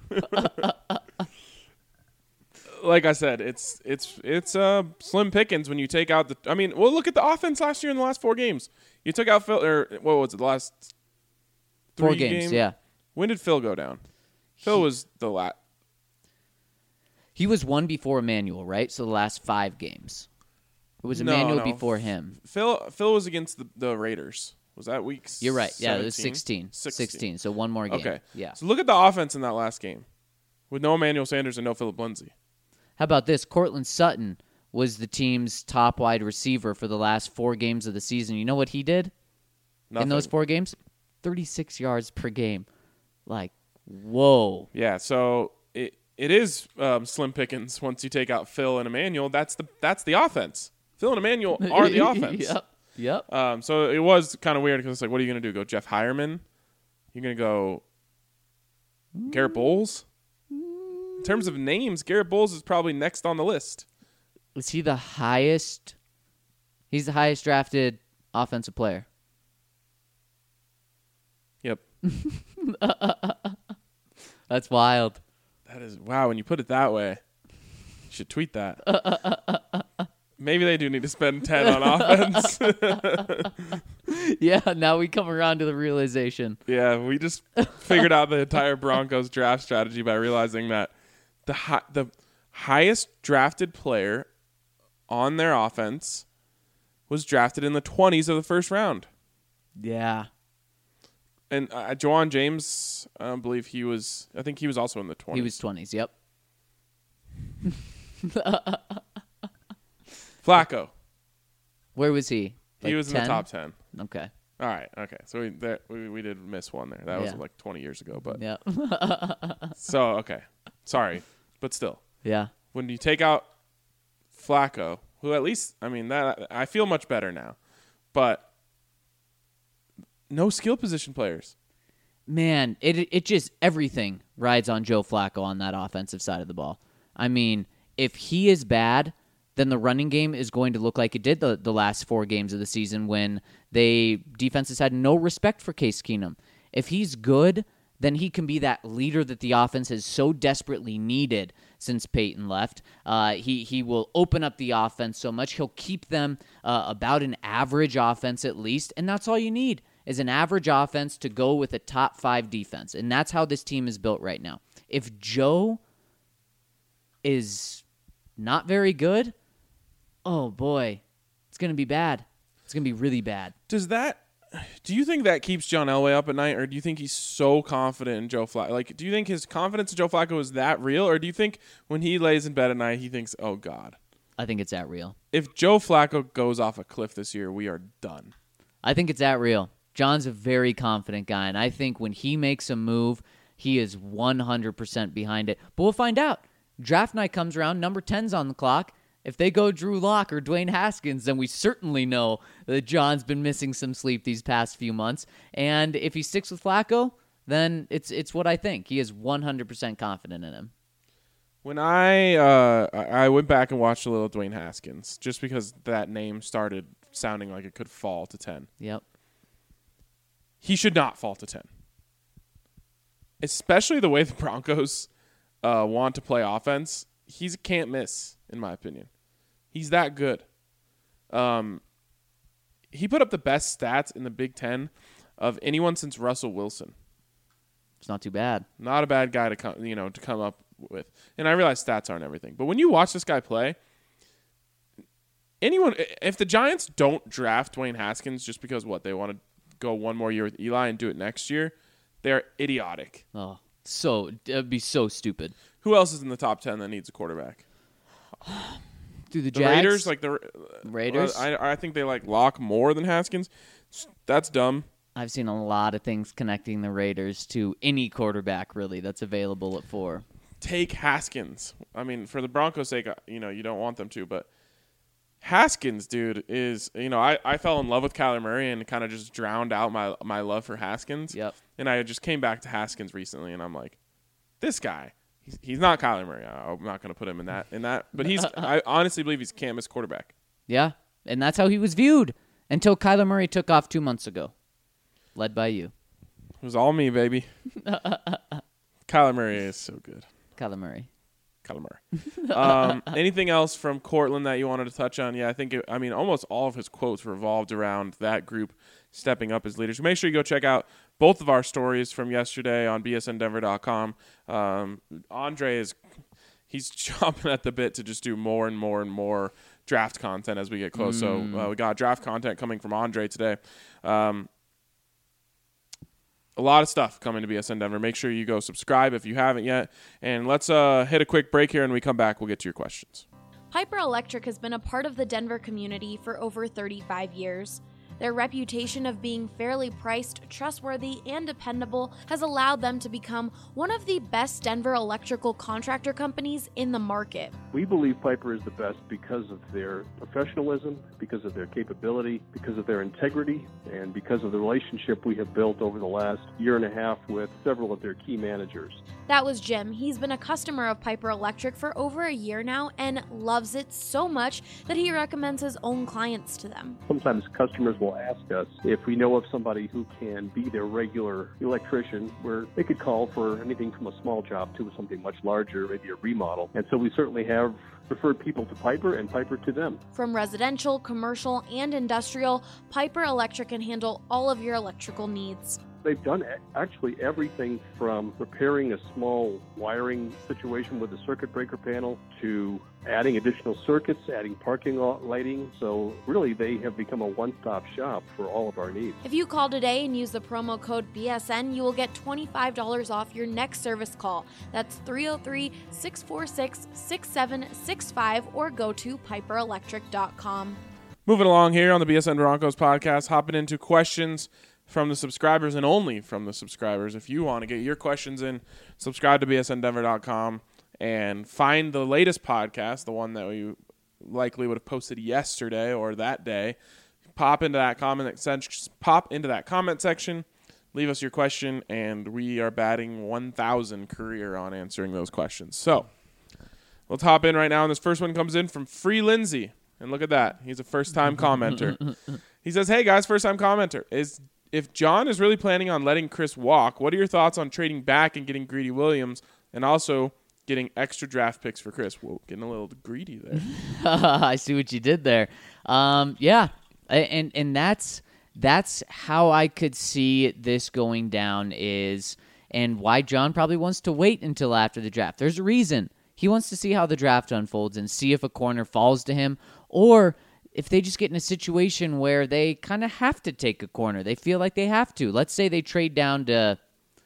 like I said, it's it's it's uh, slim pickings when you take out the. I mean, well, look at the offense last year in the last four games. You took out Phil, or what was it? The last three Four games, game? yeah. When did Phil go down? Phil He- was the last. He was one before Emmanuel, right? So the last five games. It was No, Emmanuel no. before him. Phil Phil was against the, the Raiders. Was that week? You're right. Yeah, it was seventeen? sixteen. sixteen. So one more game. Okay. Yeah. So look at the offense in that last game, with no Emmanuel Sanders and no Philip Lindsay. How about this? Cortland Sutton was the team's top wide receiver for the last four games of the season. You know what he did Nothing. in those four games? thirty-six yards per game. Like, whoa. Yeah, so it it is um, slim pickings once you take out Phil and Emmanuel. That's the that's the offense. Phil and Emmanuel are the offense. Yep. Yep. Um, so it was kind of weird because it's like, what are you going to do? Go Jeff Hireman? You're going to go Garrett Bowles? In terms of names, Garrett Bowles is probably next on the list. Is he the highest? He's the highest drafted offensive player. Yep. That's wild. That is, wow, when you put it that way, you should tweet that. Maybe they do need to spend ten on offense. Yeah, now we come around to the realization. Yeah, we just figured out the entire Broncos draft strategy by realizing that the hi- the highest drafted player on their offense was drafted in the twenties of the first round. Yeah. And uh, Juwan James, I believe he was, I think he was also in the twenties. He was twenties, yep. Flacco. Where was he? He Like was in ten? the top ten. Okay. All right, okay. So we there, we, we did miss one there. That was Yeah. like twenty years ago. But Yep. so, okay. Sorry. But still. Yeah. When you take out Flacco, who at least, I mean, that I feel much better now, but no skill position players. Man, it it just everything rides on Joe Flacco on that offensive side of the ball. I mean, if he is bad, then the running game is going to look like it did the, the last four games of the season when they defenses had no respect for Case Keenum. If he's good, then he can be that leader that the offense has so desperately needed since Peyton left. Uh, he he will open up the offense so much. He'll keep them uh, about an average offense at least, and that's all you need is an average offense to go with a top five defense, and that's how this team is built right now. If Joe is not very good, oh boy, it's going to be bad. It's going to be really bad. Does that, do you think that keeps John Elway up at night, or do you think he's so confident in Joe Flacco? Like, do you think his confidence in Joe Flacco is that real, or do you think when he lays in bed at night, he thinks, oh, God, I think it's that real. if Joe Flacco goes off a cliff this year, we are done? I think it's that real. John's a very confident guy, and I think when he makes a move, he is one hundred percent behind it. But we'll find out. Draft night comes around, number ten's on the clock. If they go Drew Lock or Dwayne Haskins, then we certainly know that John's been missing some sleep these past few months. And if he sticks with Flacco, then it's it's what I think. He is one hundred percent confident in him. When I uh, I I went back and watched a little Dwayne Haskins, just because that name started sounding like it could fall to ten. Yep. He should not fall to ten. Especially the way the Broncos uh, want to play offense. He's a can't miss, in my opinion. He's that good. Um, he put up the best stats in the Big Ten of anyone since Russell Wilson. It's not too bad. Not a bad guy to come, you know, to come up with. And I realize stats aren't everything, but when you watch this guy play, anyone, if the Giants don't draft Dwayne Haskins just because what they want to go one more year with Eli and do it next year, they're idiotic. Oh, so it'd be so stupid. Who else is in the top ten that needs a quarterback? Do the, The Jags? Raiders, like the Raiders? I, I think they like Locke more than Haskins. That's dumb. I've seen a lot of things connecting the Raiders to any quarterback, really, that's available at four. Take Haskins. I mean, for the Broncos' sake, you know, you don't want them to, but Haskins, dude, is, you know, I, I fell in love with Kyler Murray and kind of just drowned out my my love for Haskins. Yep. And I just came back to Haskins recently, and I'm like, this guy, he's, he's not Kyler Murray. I'm not going to put him in that, in that, but he's, I honestly believe he's a can't miss quarterback. Yeah, and that's how he was viewed until Kyler Murray took off two months ago. Led by you. It was all me, baby. Kyler Murray is so good. Kyler Murray. Kyler Murray. Um, anything else from Cortland that you wanted to touch on? Yeah, I think, it, I mean, almost all of his quotes revolved around that group stepping up as leaders. Make sure you go check out both of our stories from yesterday on B S N Denver dot com. Um, Andre is, he's chomping at the bit to just do more and more and more draft content as we get close. Mm. So uh, we got draft content coming from Andre today. Um, A lot of stuff coming to B S N Denver. Make sure you go subscribe if you haven't yet. And let's uh, hit a quick break here, and when we come back, we'll get to your questions. Piper Electric has been a part of the Denver community for over thirty-five years. Their reputation of being fairly priced, trustworthy, and dependable has allowed them to become one of the best Denver electrical contractor companies in the market. We believe Piper is the best because of their professionalism, because of their capability, because of their integrity, and because of the relationship we have built over the last year and a half with several of their key managers. That was Jim. He's been a customer of Piper Electric for over a year now and loves it so much that he recommends his own clients to them. Sometimes customers will ask us if we know of somebody who can be their regular electrician, where they could call for anything from a small job to something much larger, maybe a remodel. And so we certainly have referred people to Piper and Piper to them. From residential, commercial, and industrial, Piper Electric can handle all of your electrical needs. They've done actually everything from repairing a small wiring situation with a circuit breaker panel to adding additional circuits, adding parking lot lighting. So really, they have become a one-stop shop for all of our needs. If you call today and use the promo code B S N, you will get twenty-five dollars off your next service call. That's three oh three, six four six, six seven six five or go to piper electric dot com. Moving along here on the B S N Broncos podcast, hopping into questions from the subscribers and only from the subscribers. If you want to get your questions in, subscribe to B S N Denver dot com and find the latest podcast, the one that we likely would have posted yesterday or that day. Pop into that comment section, pop into that comment section, leave us your question, and we are batting one thousand career on answering those questions. So let's hop in right now, and this first one comes in from Free Lindsay. And look at that. He's a first-time commenter. He says, hey, guys, first-time commenter. Is If John is really planning on letting Chris walk, what are your thoughts on trading back and getting Greedy Williams and also getting extra draft picks for Chris? Whoa, getting a little greedy there. I see what you did there. Um, yeah, and and that's that's how I could see this going down is, and why John probably wants to wait until after the draft. There's a reason. He wants to see how the draft unfolds and see if a corner falls to him, or if they just get in a situation where they kind of have to take a corner. They feel like they have to. Let's say they trade down to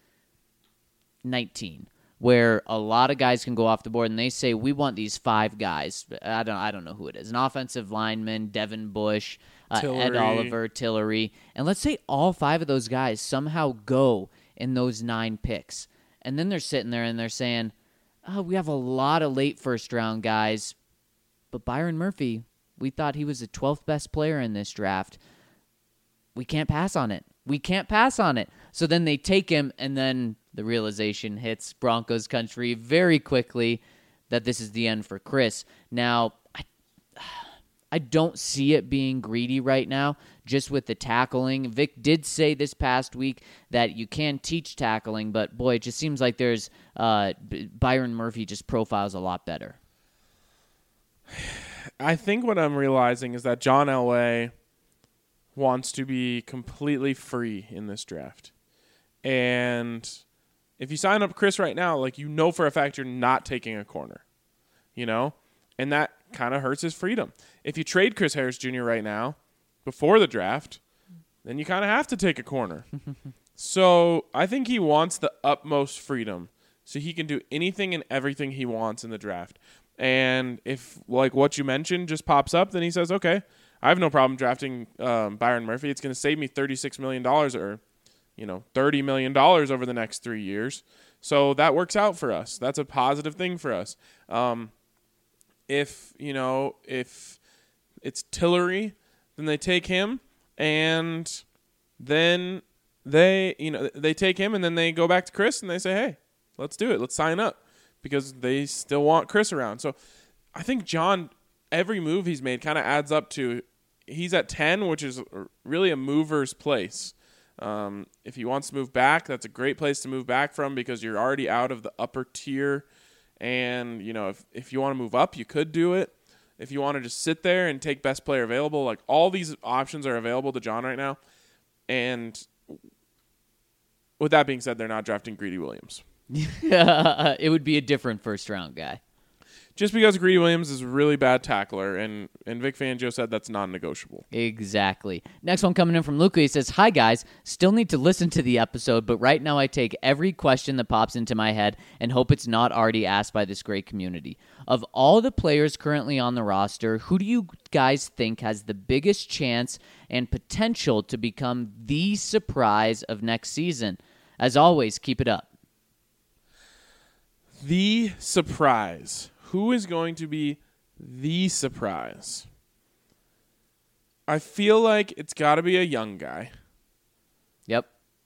nineteen, where a lot of guys can go off the board, and they say, we want these five guys. I don't I don't know who it is. An offensive lineman, Devin Bush, uh, Ed Oliver, Tillery. And let's say all five of those guys somehow go in those nine picks. And then they're sitting there and they're saying, oh, we have a lot of late first-round guys, but Byron Murphy, we thought he was the twelfth best player in this draft. We can't pass on it. We can't pass on it. So then they take him, and then the realization hits Broncos country very quickly that this is the end for Chris. Now, I, I don't see it being greedy right now, just with the tackling. Vic did say this past week that you can teach tackling, but boy, it just seems like there's uh, Byron Murphy just profiles a lot better. I think what I'm realizing is that John Elway wants to be completely free in this draft. And if you sign up Chris right now, like, you know for a fact you're not taking a corner, you know? And that kind of hurts his freedom. If you trade Chris Harris Junior right now, before the draft, then you kind of have to take a corner. So I think he wants the utmost freedom so he can do anything and everything he wants in the draft. And if, like, what you mentioned just pops up, then he says, okay, I have no problem drafting um, Byron Murphy. It's going to save me thirty-six million dollars or, you know, thirty million dollars over the next three years. So that works out for us. That's a positive thing for us. Um, if, you know, if it's Tillery, then they take him, and then they, you know, they take him, and then they go back to Chris, and they say, hey, let's do it. Let's sign up, because they still want Chris around. So I think John, every move he's made kind of adds up to, he's at ten, which is really a mover's place. Um, if he wants to move back, that's a great place to move back from, because you're already out of the upper tier. And, you know, if, if you want to move up, you could do it. If you want to just sit there and take best player available, like, all these options are available to John right now. And with that being said, they're not drafting Greedy Williams. It would be a different first-round guy. Just because Greedy Williams is a really bad tackler, and, and Vic Fangio said that's non-negotiable. Exactly. Next one coming in from Luca. He says, hi, guys. Still need to listen to the episode, but right now I take every question that pops into my head and hope it's not already asked by this great community. Of all the players currently on the roster, who do you guys think has the biggest chance and potential to become the surprise of next season? As always, keep it up. The surprise. Who is going to be the surprise? I feel like it's got to be a young guy. Yep.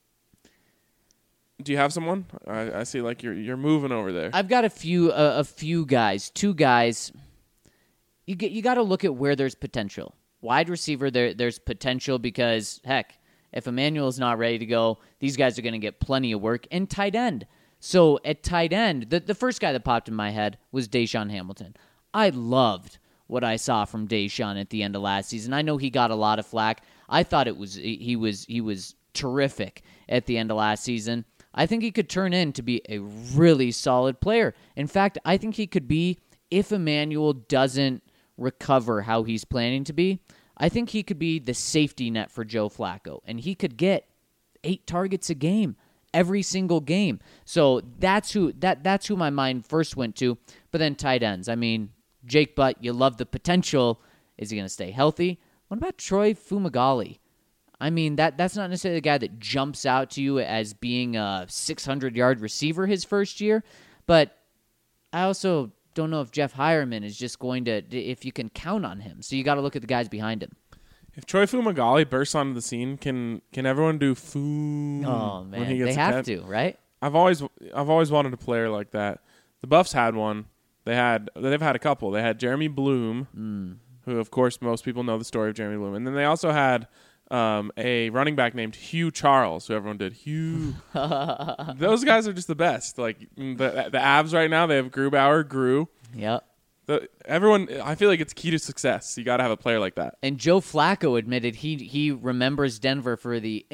Do you have someone? I, I see like you're you're moving over there. I've got a few uh, a few guys, two guys. You get you got to look at where there's potential. Wide receiver, there there's potential because heck, if Emmanuel's not ready to go, these guys are going to get plenty of work. And tight end. So at tight end, the, the first guy that popped in my head was Deshaun Hamilton. I loved what I saw from Deshaun at the end of last season. I know he got a lot of flack. I thought it was he was he was terrific at the end of last season. I think he could turn in to be a really solid player. In fact, I think he could be, if Emmanuel doesn't recover how he's planning to be, I think he could be the safety net for Joe Flacco, and he could get eight targets a game. Every single game. So that's who that that's who my mind first went to. But then tight ends. I mean, Jake Butt, you love the potential. Is he going to stay healthy? What about Troy Fumagalli? I mean, that that's not necessarily the guy that jumps out to you as being a six hundred yard receiver his first year. But I also don't know if Jeff Hireman is just going to, if you can count on him. So you got to look at the guys behind him. If Troy Fumagalli bursts onto the scene, can can everyone do foo? Oh man, when he gets they a have catch? to, right? I've always I've always wanted a player like that. The Buffs had one. They had they've had a couple. They had Jeremy Bloom, Mm. who of course most people know the story of Jeremy Bloom, and then they also had um, a running back named Hugh Charles, who everyone did Hugh. Those guys are just the best. Like the the Avs right now, they have Grubauer, Gru. Yep. The, everyone, I feel like it's key to success. You got to have a player like that. And Joe Flacco admitted he he remembers Denver for the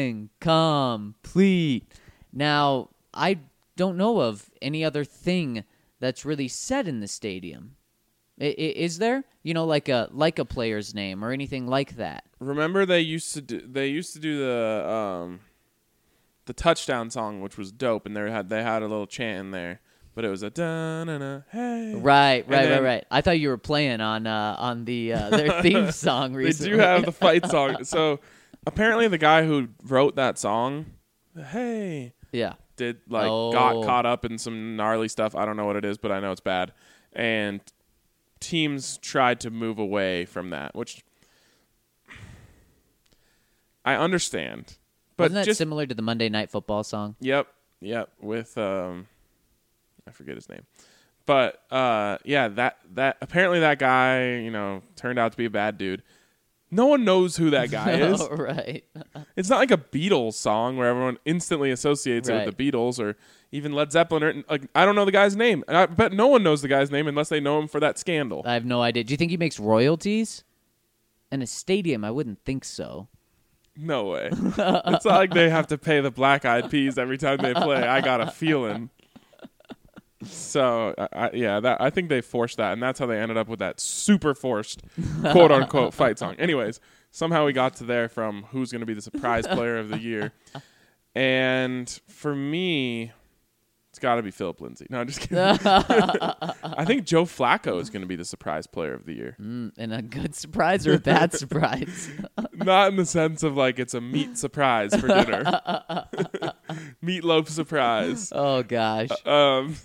incomplete. Now, I don't know of any other thing that's really said in the stadium. I, I, is there? You know, like a like a player's name or anything like that? Remember they used to do, they used to do the um, the touchdown song, which was dope, and they had they had a little chant in there. But it was a da na na hey. Right, right, then, right, right. I thought you were playing on uh, on the uh, their theme song recently. They do have the fight song. So apparently the guy who wrote that song, hey, yeah, did like Oh. got caught up in some gnarly stuff. I don't know what it is, but I know it's bad. And teams tried to move away from that, which I understand. But wasn't that just similar to the Monday Night Football song? Yep, yep, with um I forget his name. But uh, yeah, that that apparently that guy, you know, turned out to be a bad dude. No one knows who that guy is. Oh, right. It's not like a Beatles song where everyone instantly associates it Right. with the Beatles or even Led Zeppelin. Or, like, I don't know the guy's name. And I bet no one knows the guy's name unless they know him for that scandal. I have no idea. Do you think he makes royalties? In a stadium, I wouldn't think so. No way. It's not like they have to pay the Black Eyed Peas every time they play. I got a feeling. So, I, I, yeah, that I think they forced that, and that's how they ended up with that super forced quote-unquote fight song. Anyways, somehow we got to there from who's going to be the surprise player of the year. And for me, it's got to be Philip Lindsay. No, I'm just kidding. I think Joe Flacco is going to be the surprise player of the year. Mm, and a good surprise or a bad surprise? Not in the sense of like it's a meat surprise for dinner. Meatloaf surprise. Oh, gosh. Um,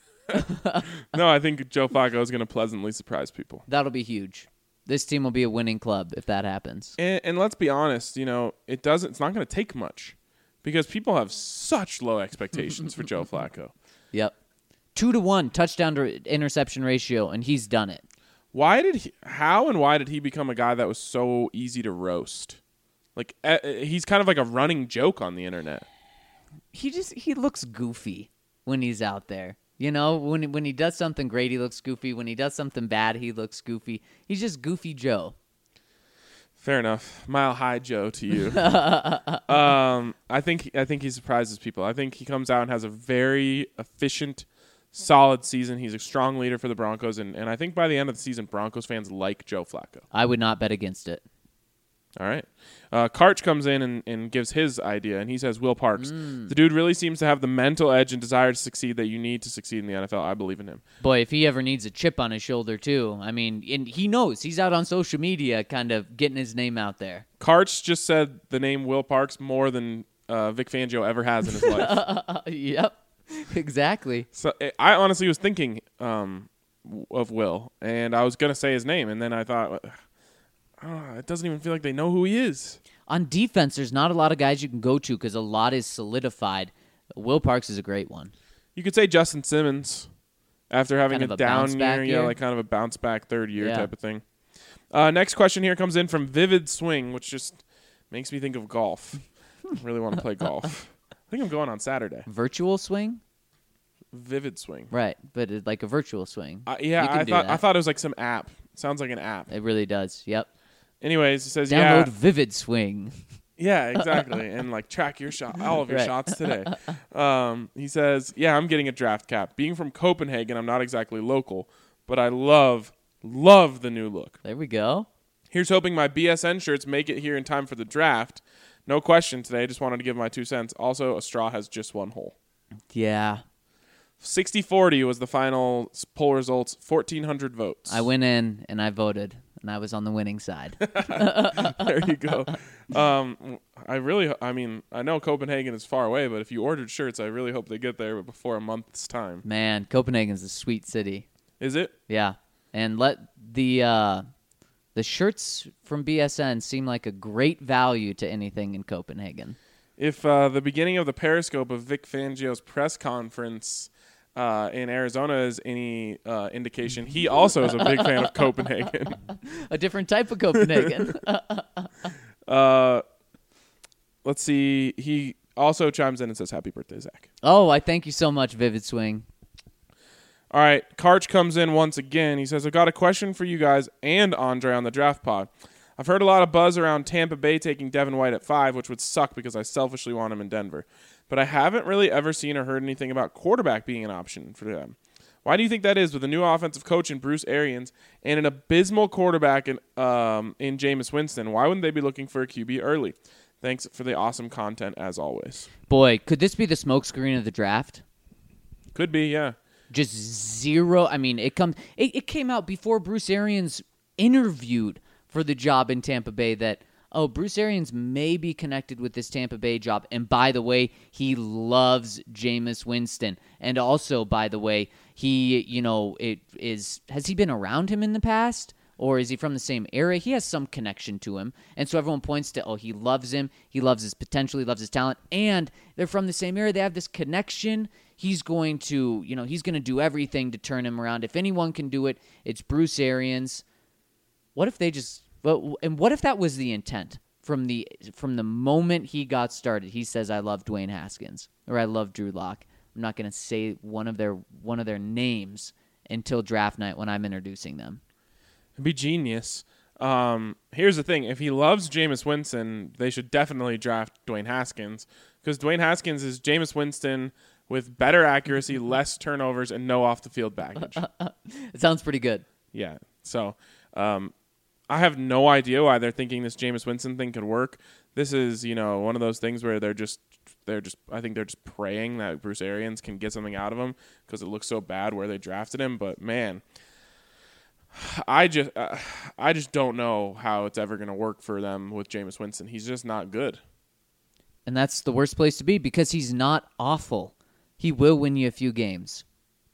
no, I think Joe Flacco is going to pleasantly surprise people. That'll be huge. This team will be a winning club if that happens. And, and let's be honest, you know, it doesn't. It's not going to take much because people have such low expectations for Joe Flacco. Yep. Two to one touchdown to interception ratio, and he's done it. Why did he? How and why did he become a guy that was so easy to roast? Like uh, he's kind of like a running joke on the internet. He just he looks goofy when he's out there. You know, when when he does something great, he looks goofy. When he does something bad, he looks goofy. He's just Goofy Joe. Fair enough. Mile High Joe to you. um, I think I think he surprises people. I think he comes out and has a very efficient, solid season. He's a strong leader for the Broncos, and, and I think by the end of the season, Broncos fans like Joe Flacco. I would not bet against it. All right. Uh, Karch comes in and, and gives his idea, and he says, Will Parks, the dude really seems to have the mental edge and desire to succeed that you need to succeed in the N F L. I believe in him. Boy, if he ever needs a chip on his shoulder, too. I mean, and he knows. He's out on social media kind of getting his name out there. Karch just said the name Will Parks more than uh, Vic Fangio ever has in his life. Yep, exactly. So I honestly was thinking um, of Will, and I was going to say his name, and then I thought, oh, it doesn't even feel like they know who he is. On defense, there's not a lot of guys you can go to because a lot is solidified. Will Parks is a great one. You could say Justin Simmons after having Kind of a a down bounce back year, yeah, year. like kind of a bounce back third year Yeah. type of thing. Uh, next question here comes in from Vivid Swing, which just makes me think of golf. I really want to play golf. I think I'm going on Saturday. Virtual swing? Vivid Swing. Right, but it's like a virtual swing. Uh, yeah, You can I do thought I that. thought it was like some app. Sounds like an app. It really does. Yep. Anyways, it says Download yeah, Vivid Swing. yeah, exactly, and like track your shot, all of your Right. shots today. Um, he says, yeah, I'm getting a draft cap. Being from Copenhagen, I'm not exactly local, but I love love the new look. There we go. Here's hoping my B S N shirts make it here in time for the draft. No question today. Just wanted to give my two cents. Also, a straw has just one hole. Yeah. sixty forty was the final s- poll results. fourteen hundred votes. I went in and I voted, and I was on the winning side. There you go. Um, I really, I mean, I know Copenhagen is far away, but if you ordered shirts, I really hope they get there before a month's time. Man, Copenhagen's a sweet city. Is it? Yeah. And let the uh, the shirts from B S N seem like a great value to anything in Copenhagen. If uh, the beginning of the Periscope of Vic Fangio's press conference uh, in Arizona is any uh, indication, he also is a big fan of Copenhagen. A different type of Copenhagen. Uh, let's see. He also chimes in and says, happy birthday, Zach. Oh, I thank you so much, Vivid Swing. All right. Karch comes in once again. He says, I've got a question for you guys and Andre on the draft pod. I've heard a lot of buzz around Tampa Bay taking Devin White at five, which would suck because I selfishly want him in Denver. But I haven't really ever seen or heard anything about quarterback being an option for them. Why do you think that is with a new offensive coach in Bruce Arians and an abysmal quarterback in, um, in Jameis Winston? Why wouldn't they be looking for a Q B early? Thanks for the awesome content as always. Boy, could this be the smokescreen of the draft? Could be, yeah. Just zero. I mean, it comes. It, it came out before Bruce Arians interviewed for the job in Tampa Bay that, oh, Bruce Arians may be connected with this Tampa Bay job. And by the way, he loves Jameis Winston. And also, by the way, he, you know, it is, has he been around him in the past? Or is he from the same era? He has some connection to him. And so everyone points to, oh, he loves him. He loves his potential. He loves his talent. And they're from the same era. They have this connection. he's going to, you know, he's going to do everything to turn him around. If anyone can do it, it's Bruce Arians. What if they just, well, and what if that was the intent from the from the moment he got started? He says, "I love Dwayne Haskins," or "I love Drew Lock." I'm not going to say one of their one of their names until draft night when I'm introducing them. It'd be genius. Um, here's the thing: if he loves Jameis Winston, they should definitely draft Dwayne Haskins, because Dwayne Haskins is Jameis Winston with better accuracy, less turnovers, and no off-the-field baggage. It sounds pretty good. Yeah. So um, I have no idea why they're thinking this Jameis Winston thing could work. This is, you know, one of those things where they're just, they're just, I think they're just praying that Bruce Arians can get something out of him because it looks so bad where they drafted him. But man, I just, uh, I just don't know how it's ever going to work for them with Jameis Winston. He's just not good. And that's the worst place to be because he's not awful. He will win you a few games.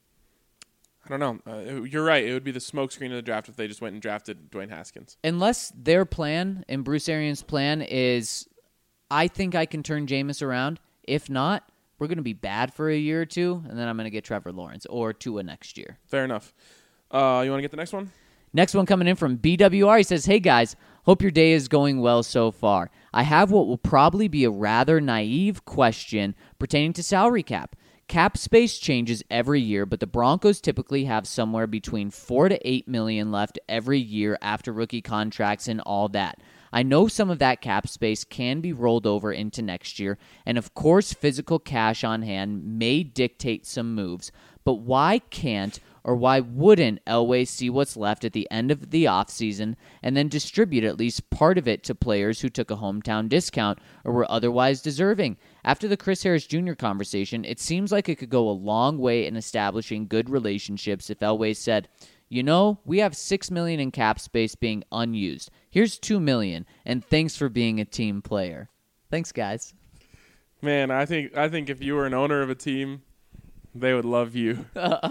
I don't know. Uh, you're right. It would be the smokescreen of the draft if they just went and drafted Dwayne Haskins. Unless their plan and Bruce Arians' plan is, I think I can turn Jameis around. If not, we're going to be bad for a year or two, and then I'm going to get Trevor Lawrence or Tua next year. Fair enough. Uh, you want to get the next one? Next one coming in from B W R. He says, "Hey guys, hope your day is going well so far. I have what will probably be a rather naive question pertaining to salary cap. Cap space changes every year, but the Broncos typically have somewhere between four to eight million left every year after rookie contracts and all that. I know some of that cap space can be rolled over into next year, and of course physical cash on hand may dictate some moves, but why can't or why wouldn't Elway see what's left at the end of the offseason and then distribute at least part of it to players who took a hometown discount or were otherwise deserving? After the Chris Harris Junior conversation, it seems like it could go a long way in establishing good relationships if Elway said, you know, we have six million dollars in cap space being unused. Here's two million dollars, and thanks for being a team player." Thanks, guys. Man, I think I think if you were an owner of a team, they would love you.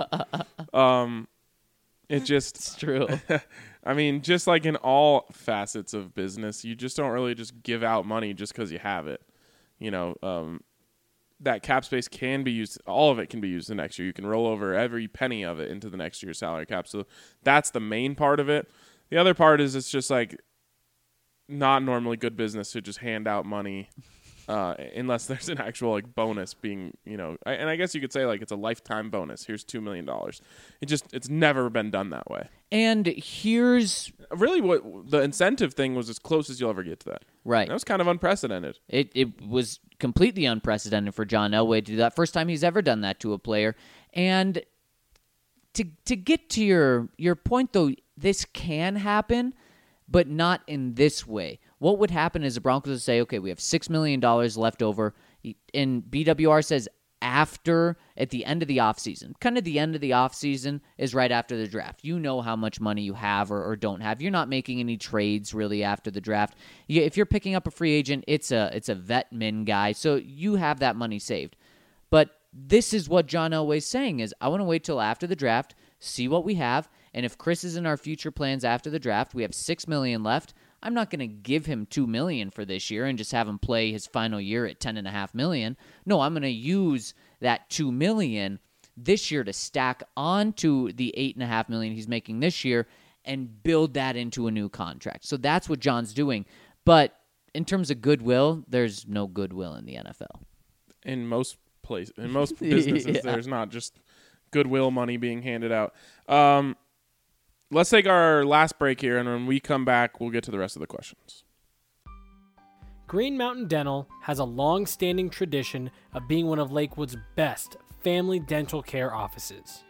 um, it just It's true. I mean, just like in all facets of business, you just don't really just give out money just because you have it. You know, um, that cap space can be used. All of it can be used the next year. You can roll over every penny of it into the next year's salary cap. So that's the main part of it. The other part is it's just like not normally good business to just hand out money uh, unless there's an actual like bonus being, you know, I, and I guess you could say like it's a lifetime bonus. Here's two million dollars. It just, it's never been done that way. And here's Really what the incentive thing was as close as you'll ever get to that. right. That was kind of unprecedented. It it was completely unprecedented for John Elway to do that. First time he's ever done that to a player. And to to get to your your point though, this can happen, but not in this way. What would happen is the Broncos would say, okay, we have six million dollars left over. And B W R says after, at the end of the offseason. Kind of the end of the offseason is right after the draft. You know how much money you have or, or don't have. You're not making any trades really after the draft. You, if you're picking up a free agent, it's a it's a vet min guy, so you have that money saved. But this is what John Elway's saying is, I want to wait till after the draft, see what we have, and if Chris is in our future plans after the draft, we have six million dollars left. I'm not going to give him two million dollars for this year and just have him play his final year at ten point five million dollars. No, I'm going to use that two million dollars this year to stack onto the eight point five million dollars he's making this year and build that into a new contract. So that's what John's doing. But in terms of goodwill, there's no goodwill in the N F L. In most places, in most businesses, Yeah. there's not just goodwill money being handed out. Um, let's take our last break here, and when we come back, we'll get to the rest of the questions. Green Mountain Dental has a long-standing tradition of being one of Lakewood's best family dental care offices.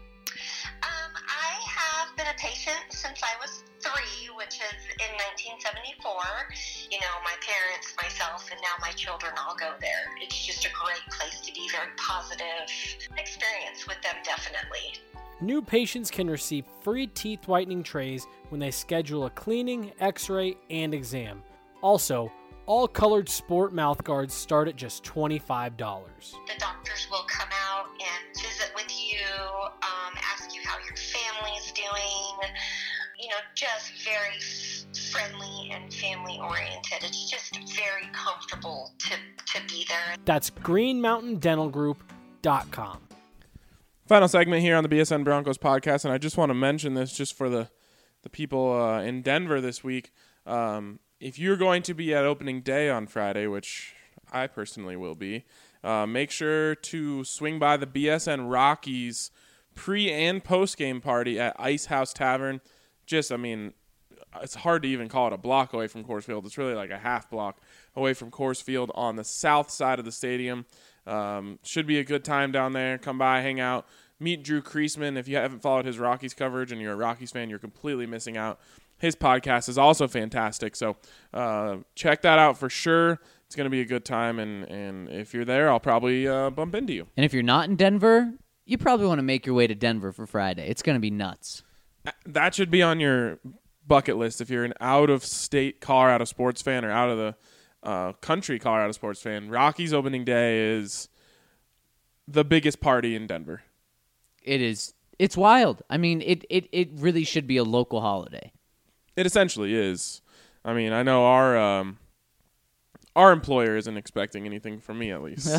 Um, I have been a patient since I was three, which is in nineteen seventy-four. You know, my parents, myself, and now my children all go there. It's just a great place to be, very positive experience with them, definitely. New patients can receive free teeth whitening trays when they schedule a cleaning, x-ray, and exam. Also, all colored sport mouth guards start at just twenty-five dollars. The doctors will come out and visit with you, um, ask you how your family's doing, you know, just very friendly and family oriented. It's just very comfortable to, to be there. That's green mountain dental group dot com. Final segment here on the B S N Broncos podcast, and I just want to mention this just for the, the people uh, in Denver this week. Um, if you're going to be at opening day on Friday, which I personally will be, uh, make sure to swing by the B S N Rockies pre- and post-game party at Ice House Tavern. Just, I mean, it's hard to even call it a block away from Coors Field. It's really like a half block away from Coors Field on the south side of the stadium. Um, should be a good time down there. Come by, hang out, meet Drew Kreisman. If you haven't followed his Rockies coverage and you're a Rockies fan, you're completely missing out. His podcast is also fantastic, so uh, check that out for sure. It's going to be a good time, and, and if you're there, I'll probably uh, bump into you. And if you're not in Denver, you probably want to make your way to Denver for Friday. It's going to be nuts. That should be on your bucket list if you're an out-of-state Colorado sports fan or out of the uh, country Colorado sports fan. Rockies opening day is the biggest party in Denver. It is. It's wild. I mean, it, it, it really should be a local holiday. It essentially is. I mean, I know our um, our employer isn't expecting anything from me, at least.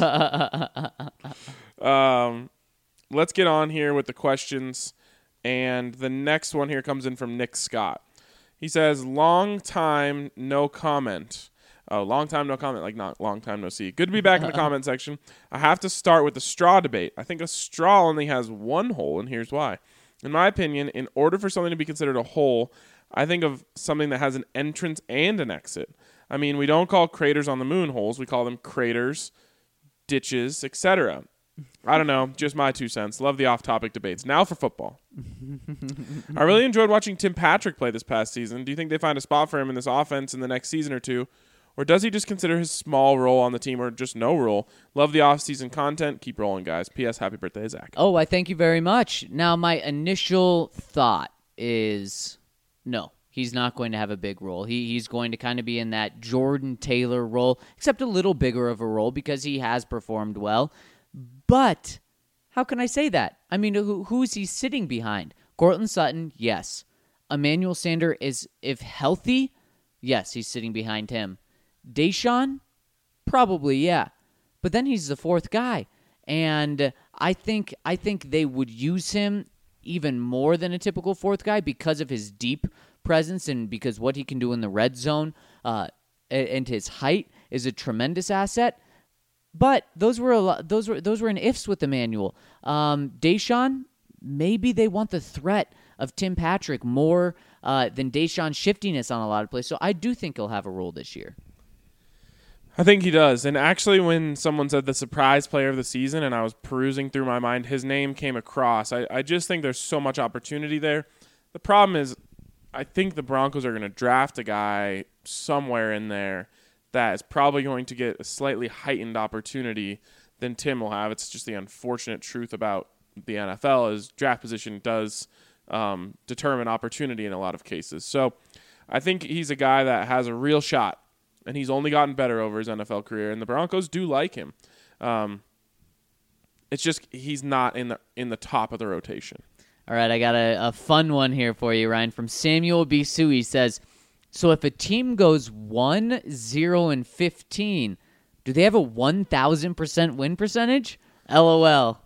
um, let's get on here with the questions. And the next one here comes in from Nick Scott. He says, long time, no comment. Oh, long time, no comment, like not long time, no see. Good to be back in the comment section. I have to start with the straw debate. I think a straw only has one hole, and here's why. In my opinion, in order for something to be considered a hole, I think of something that has an entrance and an exit. I mean, we don't call craters on the moon holes. We call them craters, ditches, et cetera. I don't know. Just my two cents. Love the off-topic debates. Now for football. I really enjoyed watching Tim Patrick play this past season. Do you think they find a spot for him in this offense in the next season or two? Or does he just consider his small role on the team or just no role? Love the off-season content. Keep rolling, guys. P S. Happy birthday, Zach. Oh, I thank you very much. Now, my initial thought is no. He's not going to have a big role. He He's going to kind of be in that Jordan Taylor role, except a little bigger of a role because he has performed well. But how can I say that? I mean, who who is he sitting behind? Cortland Sutton, yes. Emmanuel Sanders is, if healthy, yes, he's sitting behind him. Deshaun, probably, yeah. But then he's the fourth guy. And I think I think they would use him even more than a typical fourth guy because of his deep presence and because what he can do in the red zone uh, and his height is a tremendous asset. But those were a lot, those were those were an ifs with Emmanuel. Um, Deshaun, maybe they want the threat of Tim Patrick more uh, than Deshaun's shiftiness on a lot of plays. So I do think he'll have a role this year. I think he does. And actually, when someone said the surprise player of the season and I was perusing through my mind, his name came across. I, I just think there's so much opportunity there. The problem is I think the Broncos are going to draft a guy somewhere in there that is probably going to get a slightly heightened opportunity than Tim will have. It's just the unfortunate truth about the N F L is draft position does um, determine opportunity in a lot of cases. So I think he's a guy that has a real shot, and he's only gotten better over his N F L career, and the Broncos do like him. Um, it's just he's not in the in the top of the rotation. All right, I got a, a fun one here for you, Ryan, from Samuel B. Sue. He says, so if a team goes one, zero, and fifteen, do they have a one thousand percent win percentage? LOL.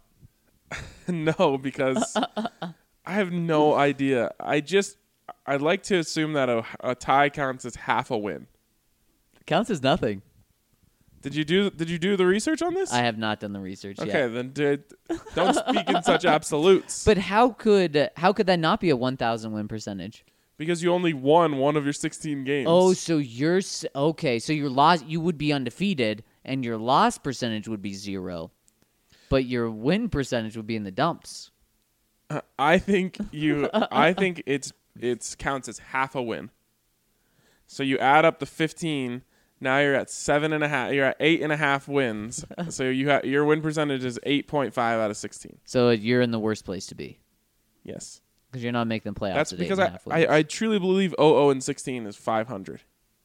No, because I have no idea. I just, I'd like to assume that a, a tie counts as half a win. Counts as nothing. Did you do Did you do the research on this? I have not done the research okay, yet. Okay, then did, don't speak in such absolutes. But how could how could that not be a one thousand win percentage? Because you only won one of your sixteen games. Oh, so you're okay. So your loss, you would be undefeated, and your loss percentage would be zero, but your win percentage would be in the dumps. Uh, I think you. I think it's it's counts as half a win. So you add up the fifteen. Now you're at seven and a half. You're at eight and a half wins. So you ha- your win percentage is eight point five out of sixteen. So you're in the worst place to be. Yes. Because you're not making the playoffs. That's at because eight I, and a half wins. I I truly believe oh oh and sixteen is five hundred.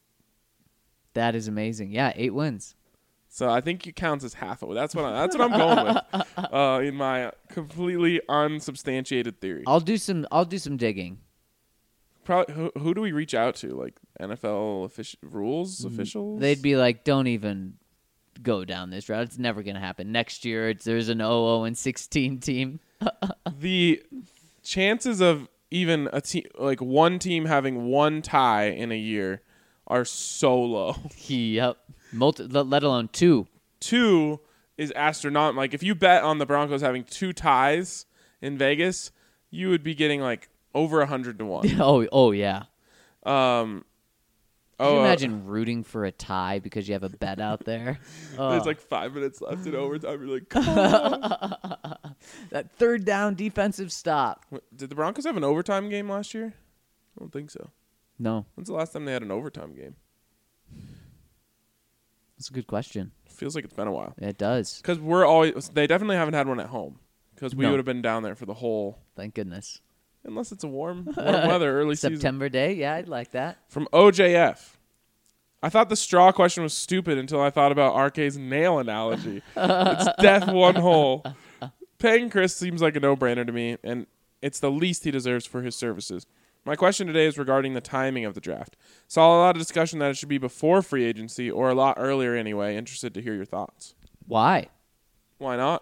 That is amazing. Yeah, eight wins. So I think it counts as half a win. That's what I, that's what I'm going with uh, in my completely unsubstantiated theory. I'll do some. I'll do some digging. Probably who, who do we reach out to? Like N F L offici- rules officials? They'd be like, don't even go down this route. It's never going to happen. Next year, it's, there's an oh oh and sixteen team. The chances of even a team like one team having one tie in a year are so low. Yep. Multi- let alone two. Two is astronomical. Like if you bet on the Broncos having two ties in Vegas, you would be getting like over a hundred to one. Oh, oh yeah. Um, Can oh, you uh, imagine rooting for a tie because you have a bet out there? Oh. There's like five minutes left in overtime. You're like, come on. That third down defensive stop. Did the Broncos have an overtime game last year? I don't think so. No, When's the last time they had an overtime game? that's a good question. Feels like it's been a while. It does. Because we're always, they definitely haven't had one at home. Because we No. would have been down there for the whole, Thank goodness. unless it's a warm, warm weather, early season. September day. Yeah, I'd like that. From O J F. I thought the straw question was stupid until I thought about R K's nail analogy. It's death one hole. Paying Chris seems like a no-brainer to me, and it's the least he deserves for his services. My question today is regarding the timing of the draft. Saw a lot of discussion that it should be before free agency or a lot earlier anyway. Interested to hear your thoughts. Why? Why not?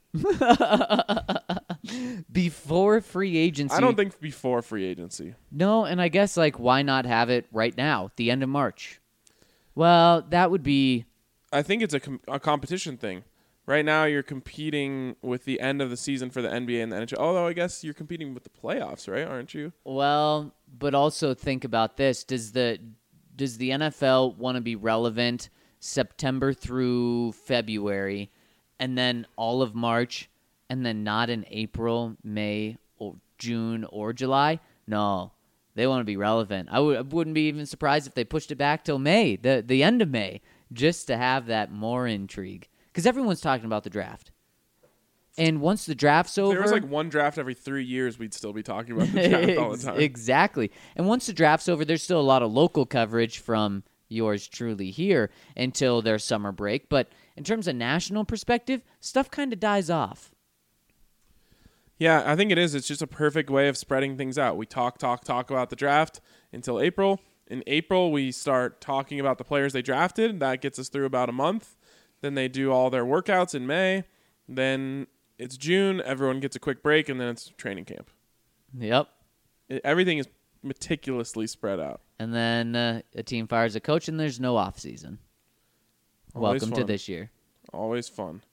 Before free agency. I don't think before free agency. No, and I guess like why not have it right now, the end of March? Well, that would be I think it's a, com- a competition thing. Right now, you're competing with the end of the season for the N B A and the N H L. Although I guess you're competing with the playoffs, right? Aren't you? well, but also think about this: does the does the N F L want to be relevant September through February, and then all of March, and then not in April, May, or June or July? No, they want to be relevant. I would I wouldn't be even surprised if they pushed it back till May, the the end of May, just to have that more intrigue. Because everyone's talking about the draft. And once the draft's over... If there was like one draft every three years, we'd still be talking about the draft all the time. Exactly. And once the draft's over, there's still a lot of local coverage from yours truly here until their summer break. But in terms of national perspective, stuff kind of dies off. Yeah, I think it is. It's just a perfect way of spreading things out. We talk, talk, talk about the draft until April. In April, we start talking about the players they drafted. That gets us through about a month. Then they do all their workouts in May. Then it's June. Everyone gets a quick break, and then it's training camp. Yep. It, everything is meticulously spread out. And then uh, a team fires a coach, and there's no off season. Always Welcome fun. to this year. Always fun.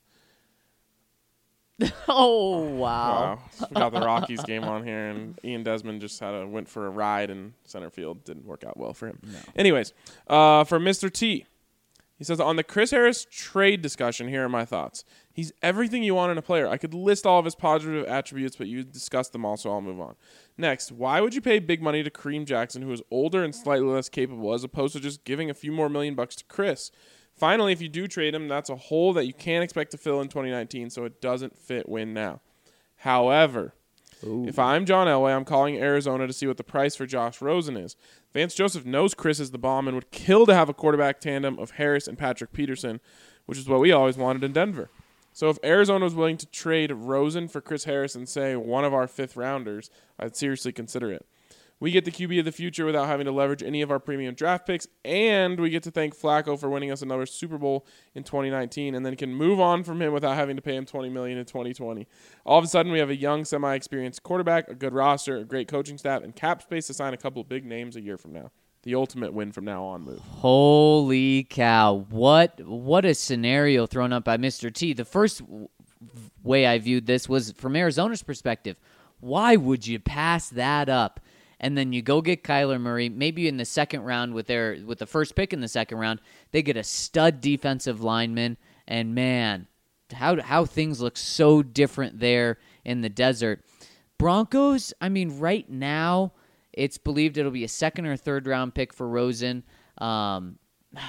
Oh, wow. Wow. We got the Rockies game on here, and Ian Desmond just had a went for a ride in center field. Didn't work out well for him. No. Anyways, uh, for Mister T, he says, on the Chris Harris trade discussion, here are my thoughts. He's everything you want in a player. I could list all of his positive attributes, but you discussed them all, so I'll move on. Next, why would you pay big money to Kareem Jackson, who is older and slightly less capable, as opposed to just giving a few more million bucks to Chris? Finally, if you do trade him, that's a hole that you can't expect to fill in twenty nineteen, so it doesn't fit win now. However, Ooh. if I'm John Elway, I'm calling Arizona to see what the price for Josh Rosen is. Vance Joseph knows Chris is the bomb and would kill to have a quarterback tandem of Harris and Patrick Peterson, which is what we always wanted in Denver. So if Arizona was willing to trade Rosen for Chris Harris and say one of our fifth rounders, I'd seriously consider it. We get the Q B of the future without having to leverage any of our premium draft picks, and we get to thank Flacco for winning us another Super Bowl in twenty nineteen, and then can move on from him without having to pay him twenty million dollars in twenty twenty. All of a sudden, we have a young, semi-experienced quarterback, a good roster, a great coaching staff, and cap space to sign a couple of big names a year from now. The ultimate win from now on move. Holy cow. What what a scenario thrown up by Mister T. The first w- way I viewed this was from Arizona's perspective. Why would you pass that up? And then you go get Kyler Murray, maybe in the second round with their with the first pick in the second round, they get a stud defensive lineman, and man, how how things look so different there in the desert. Broncos, I mean, right now, it's believed it'll be a second or third round pick for Rosen. Um,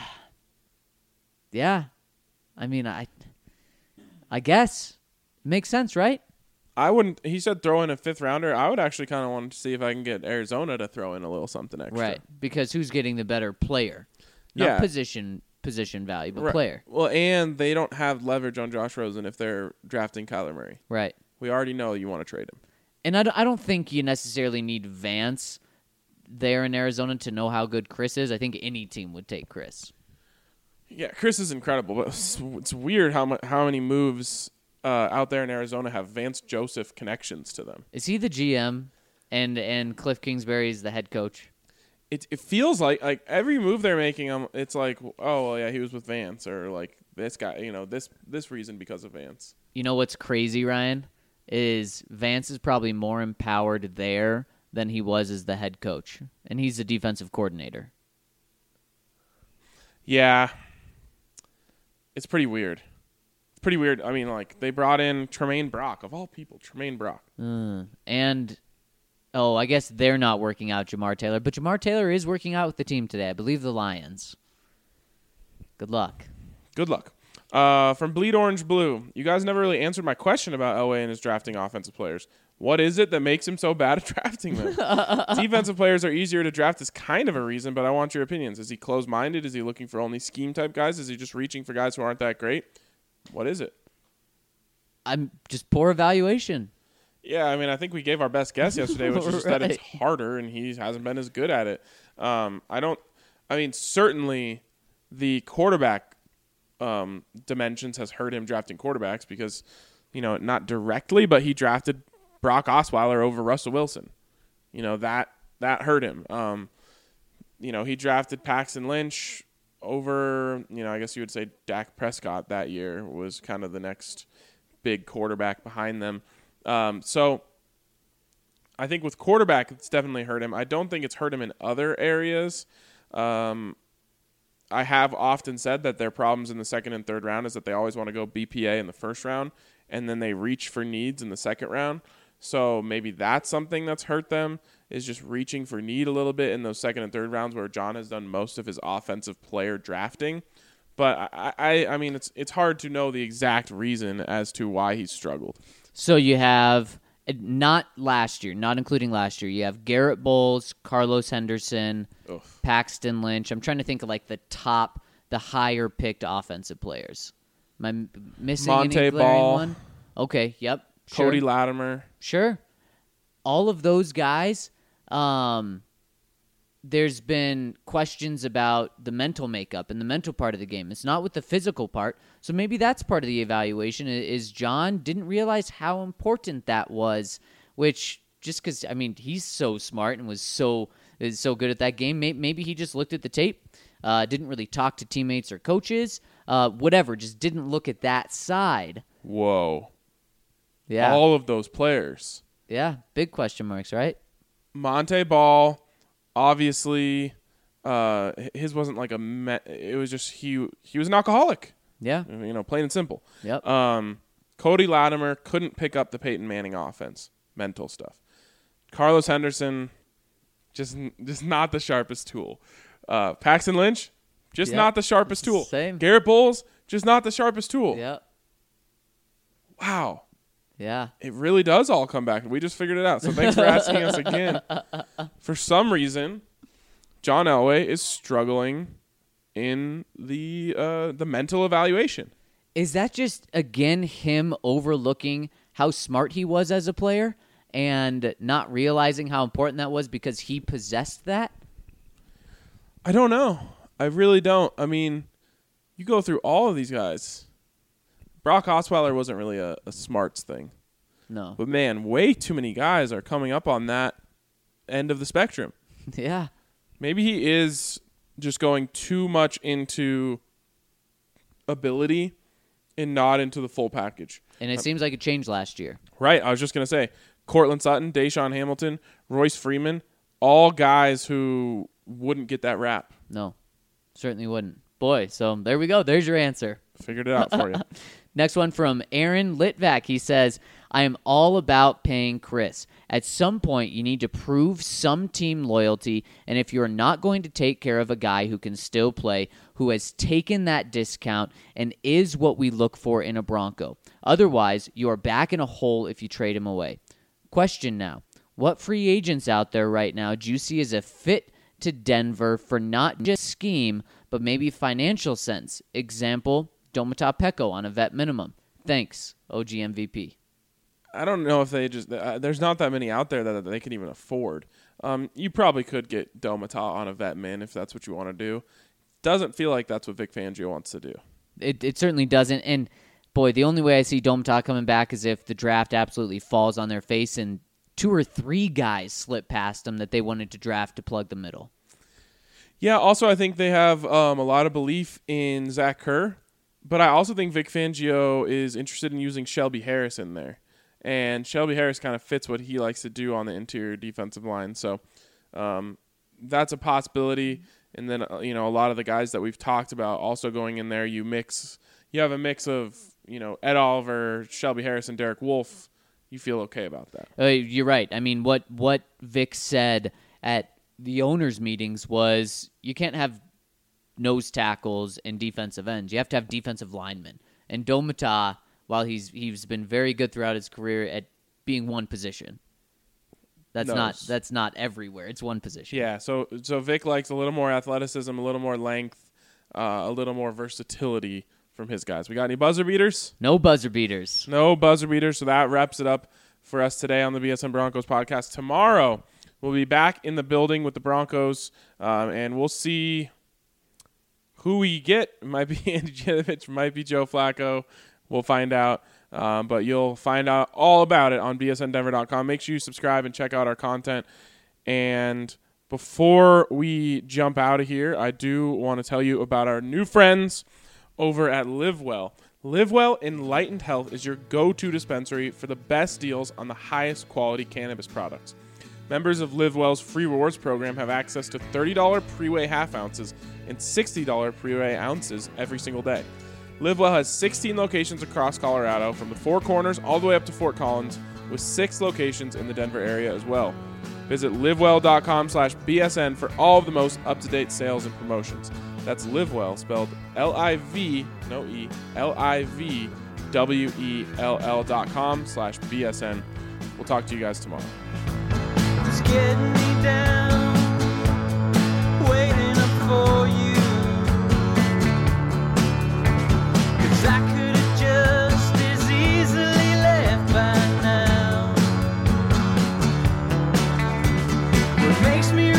yeah, I mean, I, I guess makes sense, right? I wouldn't. He said throw in a fifth rounder. I would actually kind of want to see if I can get Arizona to throw in a little something extra. Right, because who's getting the better player? Not Yeah. position position value, but Right. player. Well, and they don't have leverage on Josh Rosen if they're drafting Kyler Murray. Right. We already know you want to trade him. And I don't, I don't think you necessarily need Vance there in Arizona to know how good Chris is. I think any team would take Chris. Yeah, Chris is incredible, but it's, it's weird how mu- how many moves uh, out there in Arizona have Vance Joseph connections to them. Is he the G M and and Cliff Kingsbury is the head coach? It it feels like like every move they're making, um, it's like, oh well, yeah, he was with Vance, or like this guy, you know, this this reason because of Vance. You know what's crazy, Ryan, is Vance is probably more empowered there than he was as the head coach, and he's the defensive coordinator. Yeah, it's pretty weird. It's pretty weird. I mean, like they brought in Tremaine Brock of all people, Tremaine Brock, Mm. And oh, I guess they're not working out Jamar Taylor, but Jamar Taylor is working out with the team today. I believe the Lions. Good luck. Good luck. Uh, from Bleed Orange Blue, you guys never really answered my question about Elway and his drafting offensive players. What is it that makes him so bad at drafting them? Defensive players are easier to draft is kind of a reason, but I want your opinions. Is he closed-minded? Is he looking for only scheme-type guys? Is he just reaching for guys who aren't that great? What is it? I'm just poor evaluation. Yeah, I mean, I think we gave our best guess yesterday, which is just that it's Right. harder, and he hasn't been as good at it. Um, I don't – I mean, certainly the quarterback um, dimensions has hurt him drafting quarterbacks because, you know, not directly, but he drafted Brock Osweiler over Russell Wilson. You know, that that hurt him. Um, you know, he drafted Paxton Lynch over, you know, I guess you would say Dak Prescott that year was kind of the next big quarterback behind them. Um, so I think with quarterback, it's definitely hurt him. I don't think it's hurt him in other areas. Um, I have often said that their problems in the second and third round is that they always want to go B P A in the first round, and then they reach for needs in the second round. So maybe that's something that's hurt them, is just reaching for need a little bit in those second and third rounds where John has done most of his offensive player drafting. But I, I, I mean, it's it's hard to know the exact reason as to why he's struggled. So you have, not last year, not including last year, you have Garrett Bowles, Carlos Henderson, Oof. Paxton Lynch. I'm trying to think of like the top, the higher picked offensive players. Am I m- missing Monte any glaring Ball. one? Okay, yep. Cody sure. Latimer. Sure. All of those guys, um, there's been questions about the mental makeup and the mental part of the game. It's not with the physical part. So maybe that's part of the evaluation i- is John didn't realize how important that was, which just because, I mean, he's so smart and was so is so good at that game. May- Maybe he just looked at the tape, uh, didn't really talk to teammates or coaches, uh, whatever, just didn't look at that side. Whoa. Yeah. All of those players. Yeah. Big question marks, right? Monte Ball, obviously, uh, his wasn't like a me- it was just he he was an alcoholic, Yeah. you know, plain and simple. Yep. Um, Cody Latimer couldn't pick up the Peyton Manning offense, mental stuff. Carlos Henderson, just just not the sharpest tool. Uh, Paxton Lynch, just Yep. not the sharpest tool. Same. Garrett Bowles, just not the sharpest tool. Yep. Wow. Yeah. It really does all come back. We just figured it out. So thanks for asking us again. For some reason, John Elway is struggling in the uh, the mental evaluation. Is that just, again, him overlooking how smart he was as a player and not realizing how important that was because he possessed that? I don't know. I really don't. I mean, you go through all of these guys. Brock Osweiler wasn't really a, a smarts thing. No. But, man, way too many guys are coming up on that end of the spectrum. Yeah. Maybe he is just going too much into ability and not into the full package. And it seems like it changed last year. Right. I was just going to say, Cortland Sutton, Deshaun Hamilton, Royce Freeman, all guys who wouldn't get that rap. No. Certainly wouldn't. Boy, so there we go. There's your answer. Figured it out for you. Next one from Aaron Litvak. He says, I am all about paying Chris. At some point, you need to prove some team loyalty, and if you're not going to take care of a guy who can still play, who has taken that discount and is what we look for in a Bronco. Otherwise, you are back in a hole if you trade him away. Question now, what free agents out there right now do you see as a fit to Denver for not just scheme, but maybe financial sense? Example, Domata Peko on a vet minimum. Thanks, O G M V P. I don't know if they just uh, – there's not that many out there that, that they can even afford. Um, you probably could get Domata on a vet min if that's what you want to do. doesn't feel like that's what Vic Fangio wants to do. It it certainly doesn't. And boy, the only way I see Domata coming back is if the draft absolutely falls on their face and two or three guys slip past them that they wanted to draft to plug the middle. Yeah, also I think they have um, a lot of belief in Zach Kerr, but I also think Vic Fangio is interested in using Shelby Harris in there. And Shelby Harris kind of fits what he likes to do on the interior defensive line. So um, that's a possibility. And then, uh, you know, a lot of the guys that we've talked about also going in there, you mix, you have a mix of, you know, Ed Oliver, Shelby Harris, and Derek Wolfe. You feel okay about that. Uh, you're right. I mean, what, what Vic said at the owners' meetings was you can't have nose tackles and defensive ends. You have to have defensive linemen. And Domata, while he's he's been very good throughout his career at being one position, that's Nose. not that's not everywhere. It's one position. Yeah, so so Vic likes a little more athleticism, a little more length, uh, a little more versatility from his guys. We got any buzzer beaters? No buzzer beaters. No buzzer beaters, so that wraps it up for us today on the B S N Broncos podcast. Tomorrow, we'll be back in the building with the Broncos, um, and we'll see who we get. It might be Andy Janovich, might be Joe Flacco. We'll find out, um, but you'll find out all about it on B S N Denver dot com. Make sure you subscribe and check out our content. And before we jump out of here, I do want to tell you about our new friends over at LiveWell. LiveWell Enlightened Health is your go-to dispensary for the best deals on the highest quality cannabis products. Members of LiveWell's free rewards program have access to thirty dollars pre-weigh half ounces and sixty dollars pre-weigh ounces every single day. LiveWell has sixteen locations across Colorado, from the Four Corners all the way up to Fort Collins, with six locations in the Denver area as well. Visit livewell.com slash BSN for all of the most up-to-date sales and promotions. That's LiveWell, spelled L I V, no E, L I V W E L L dot com slash B S N. We'll talk to you guys tomorrow. Just getting me down, waiting up for you. 'Cause I could have just as easily left by now. What makes me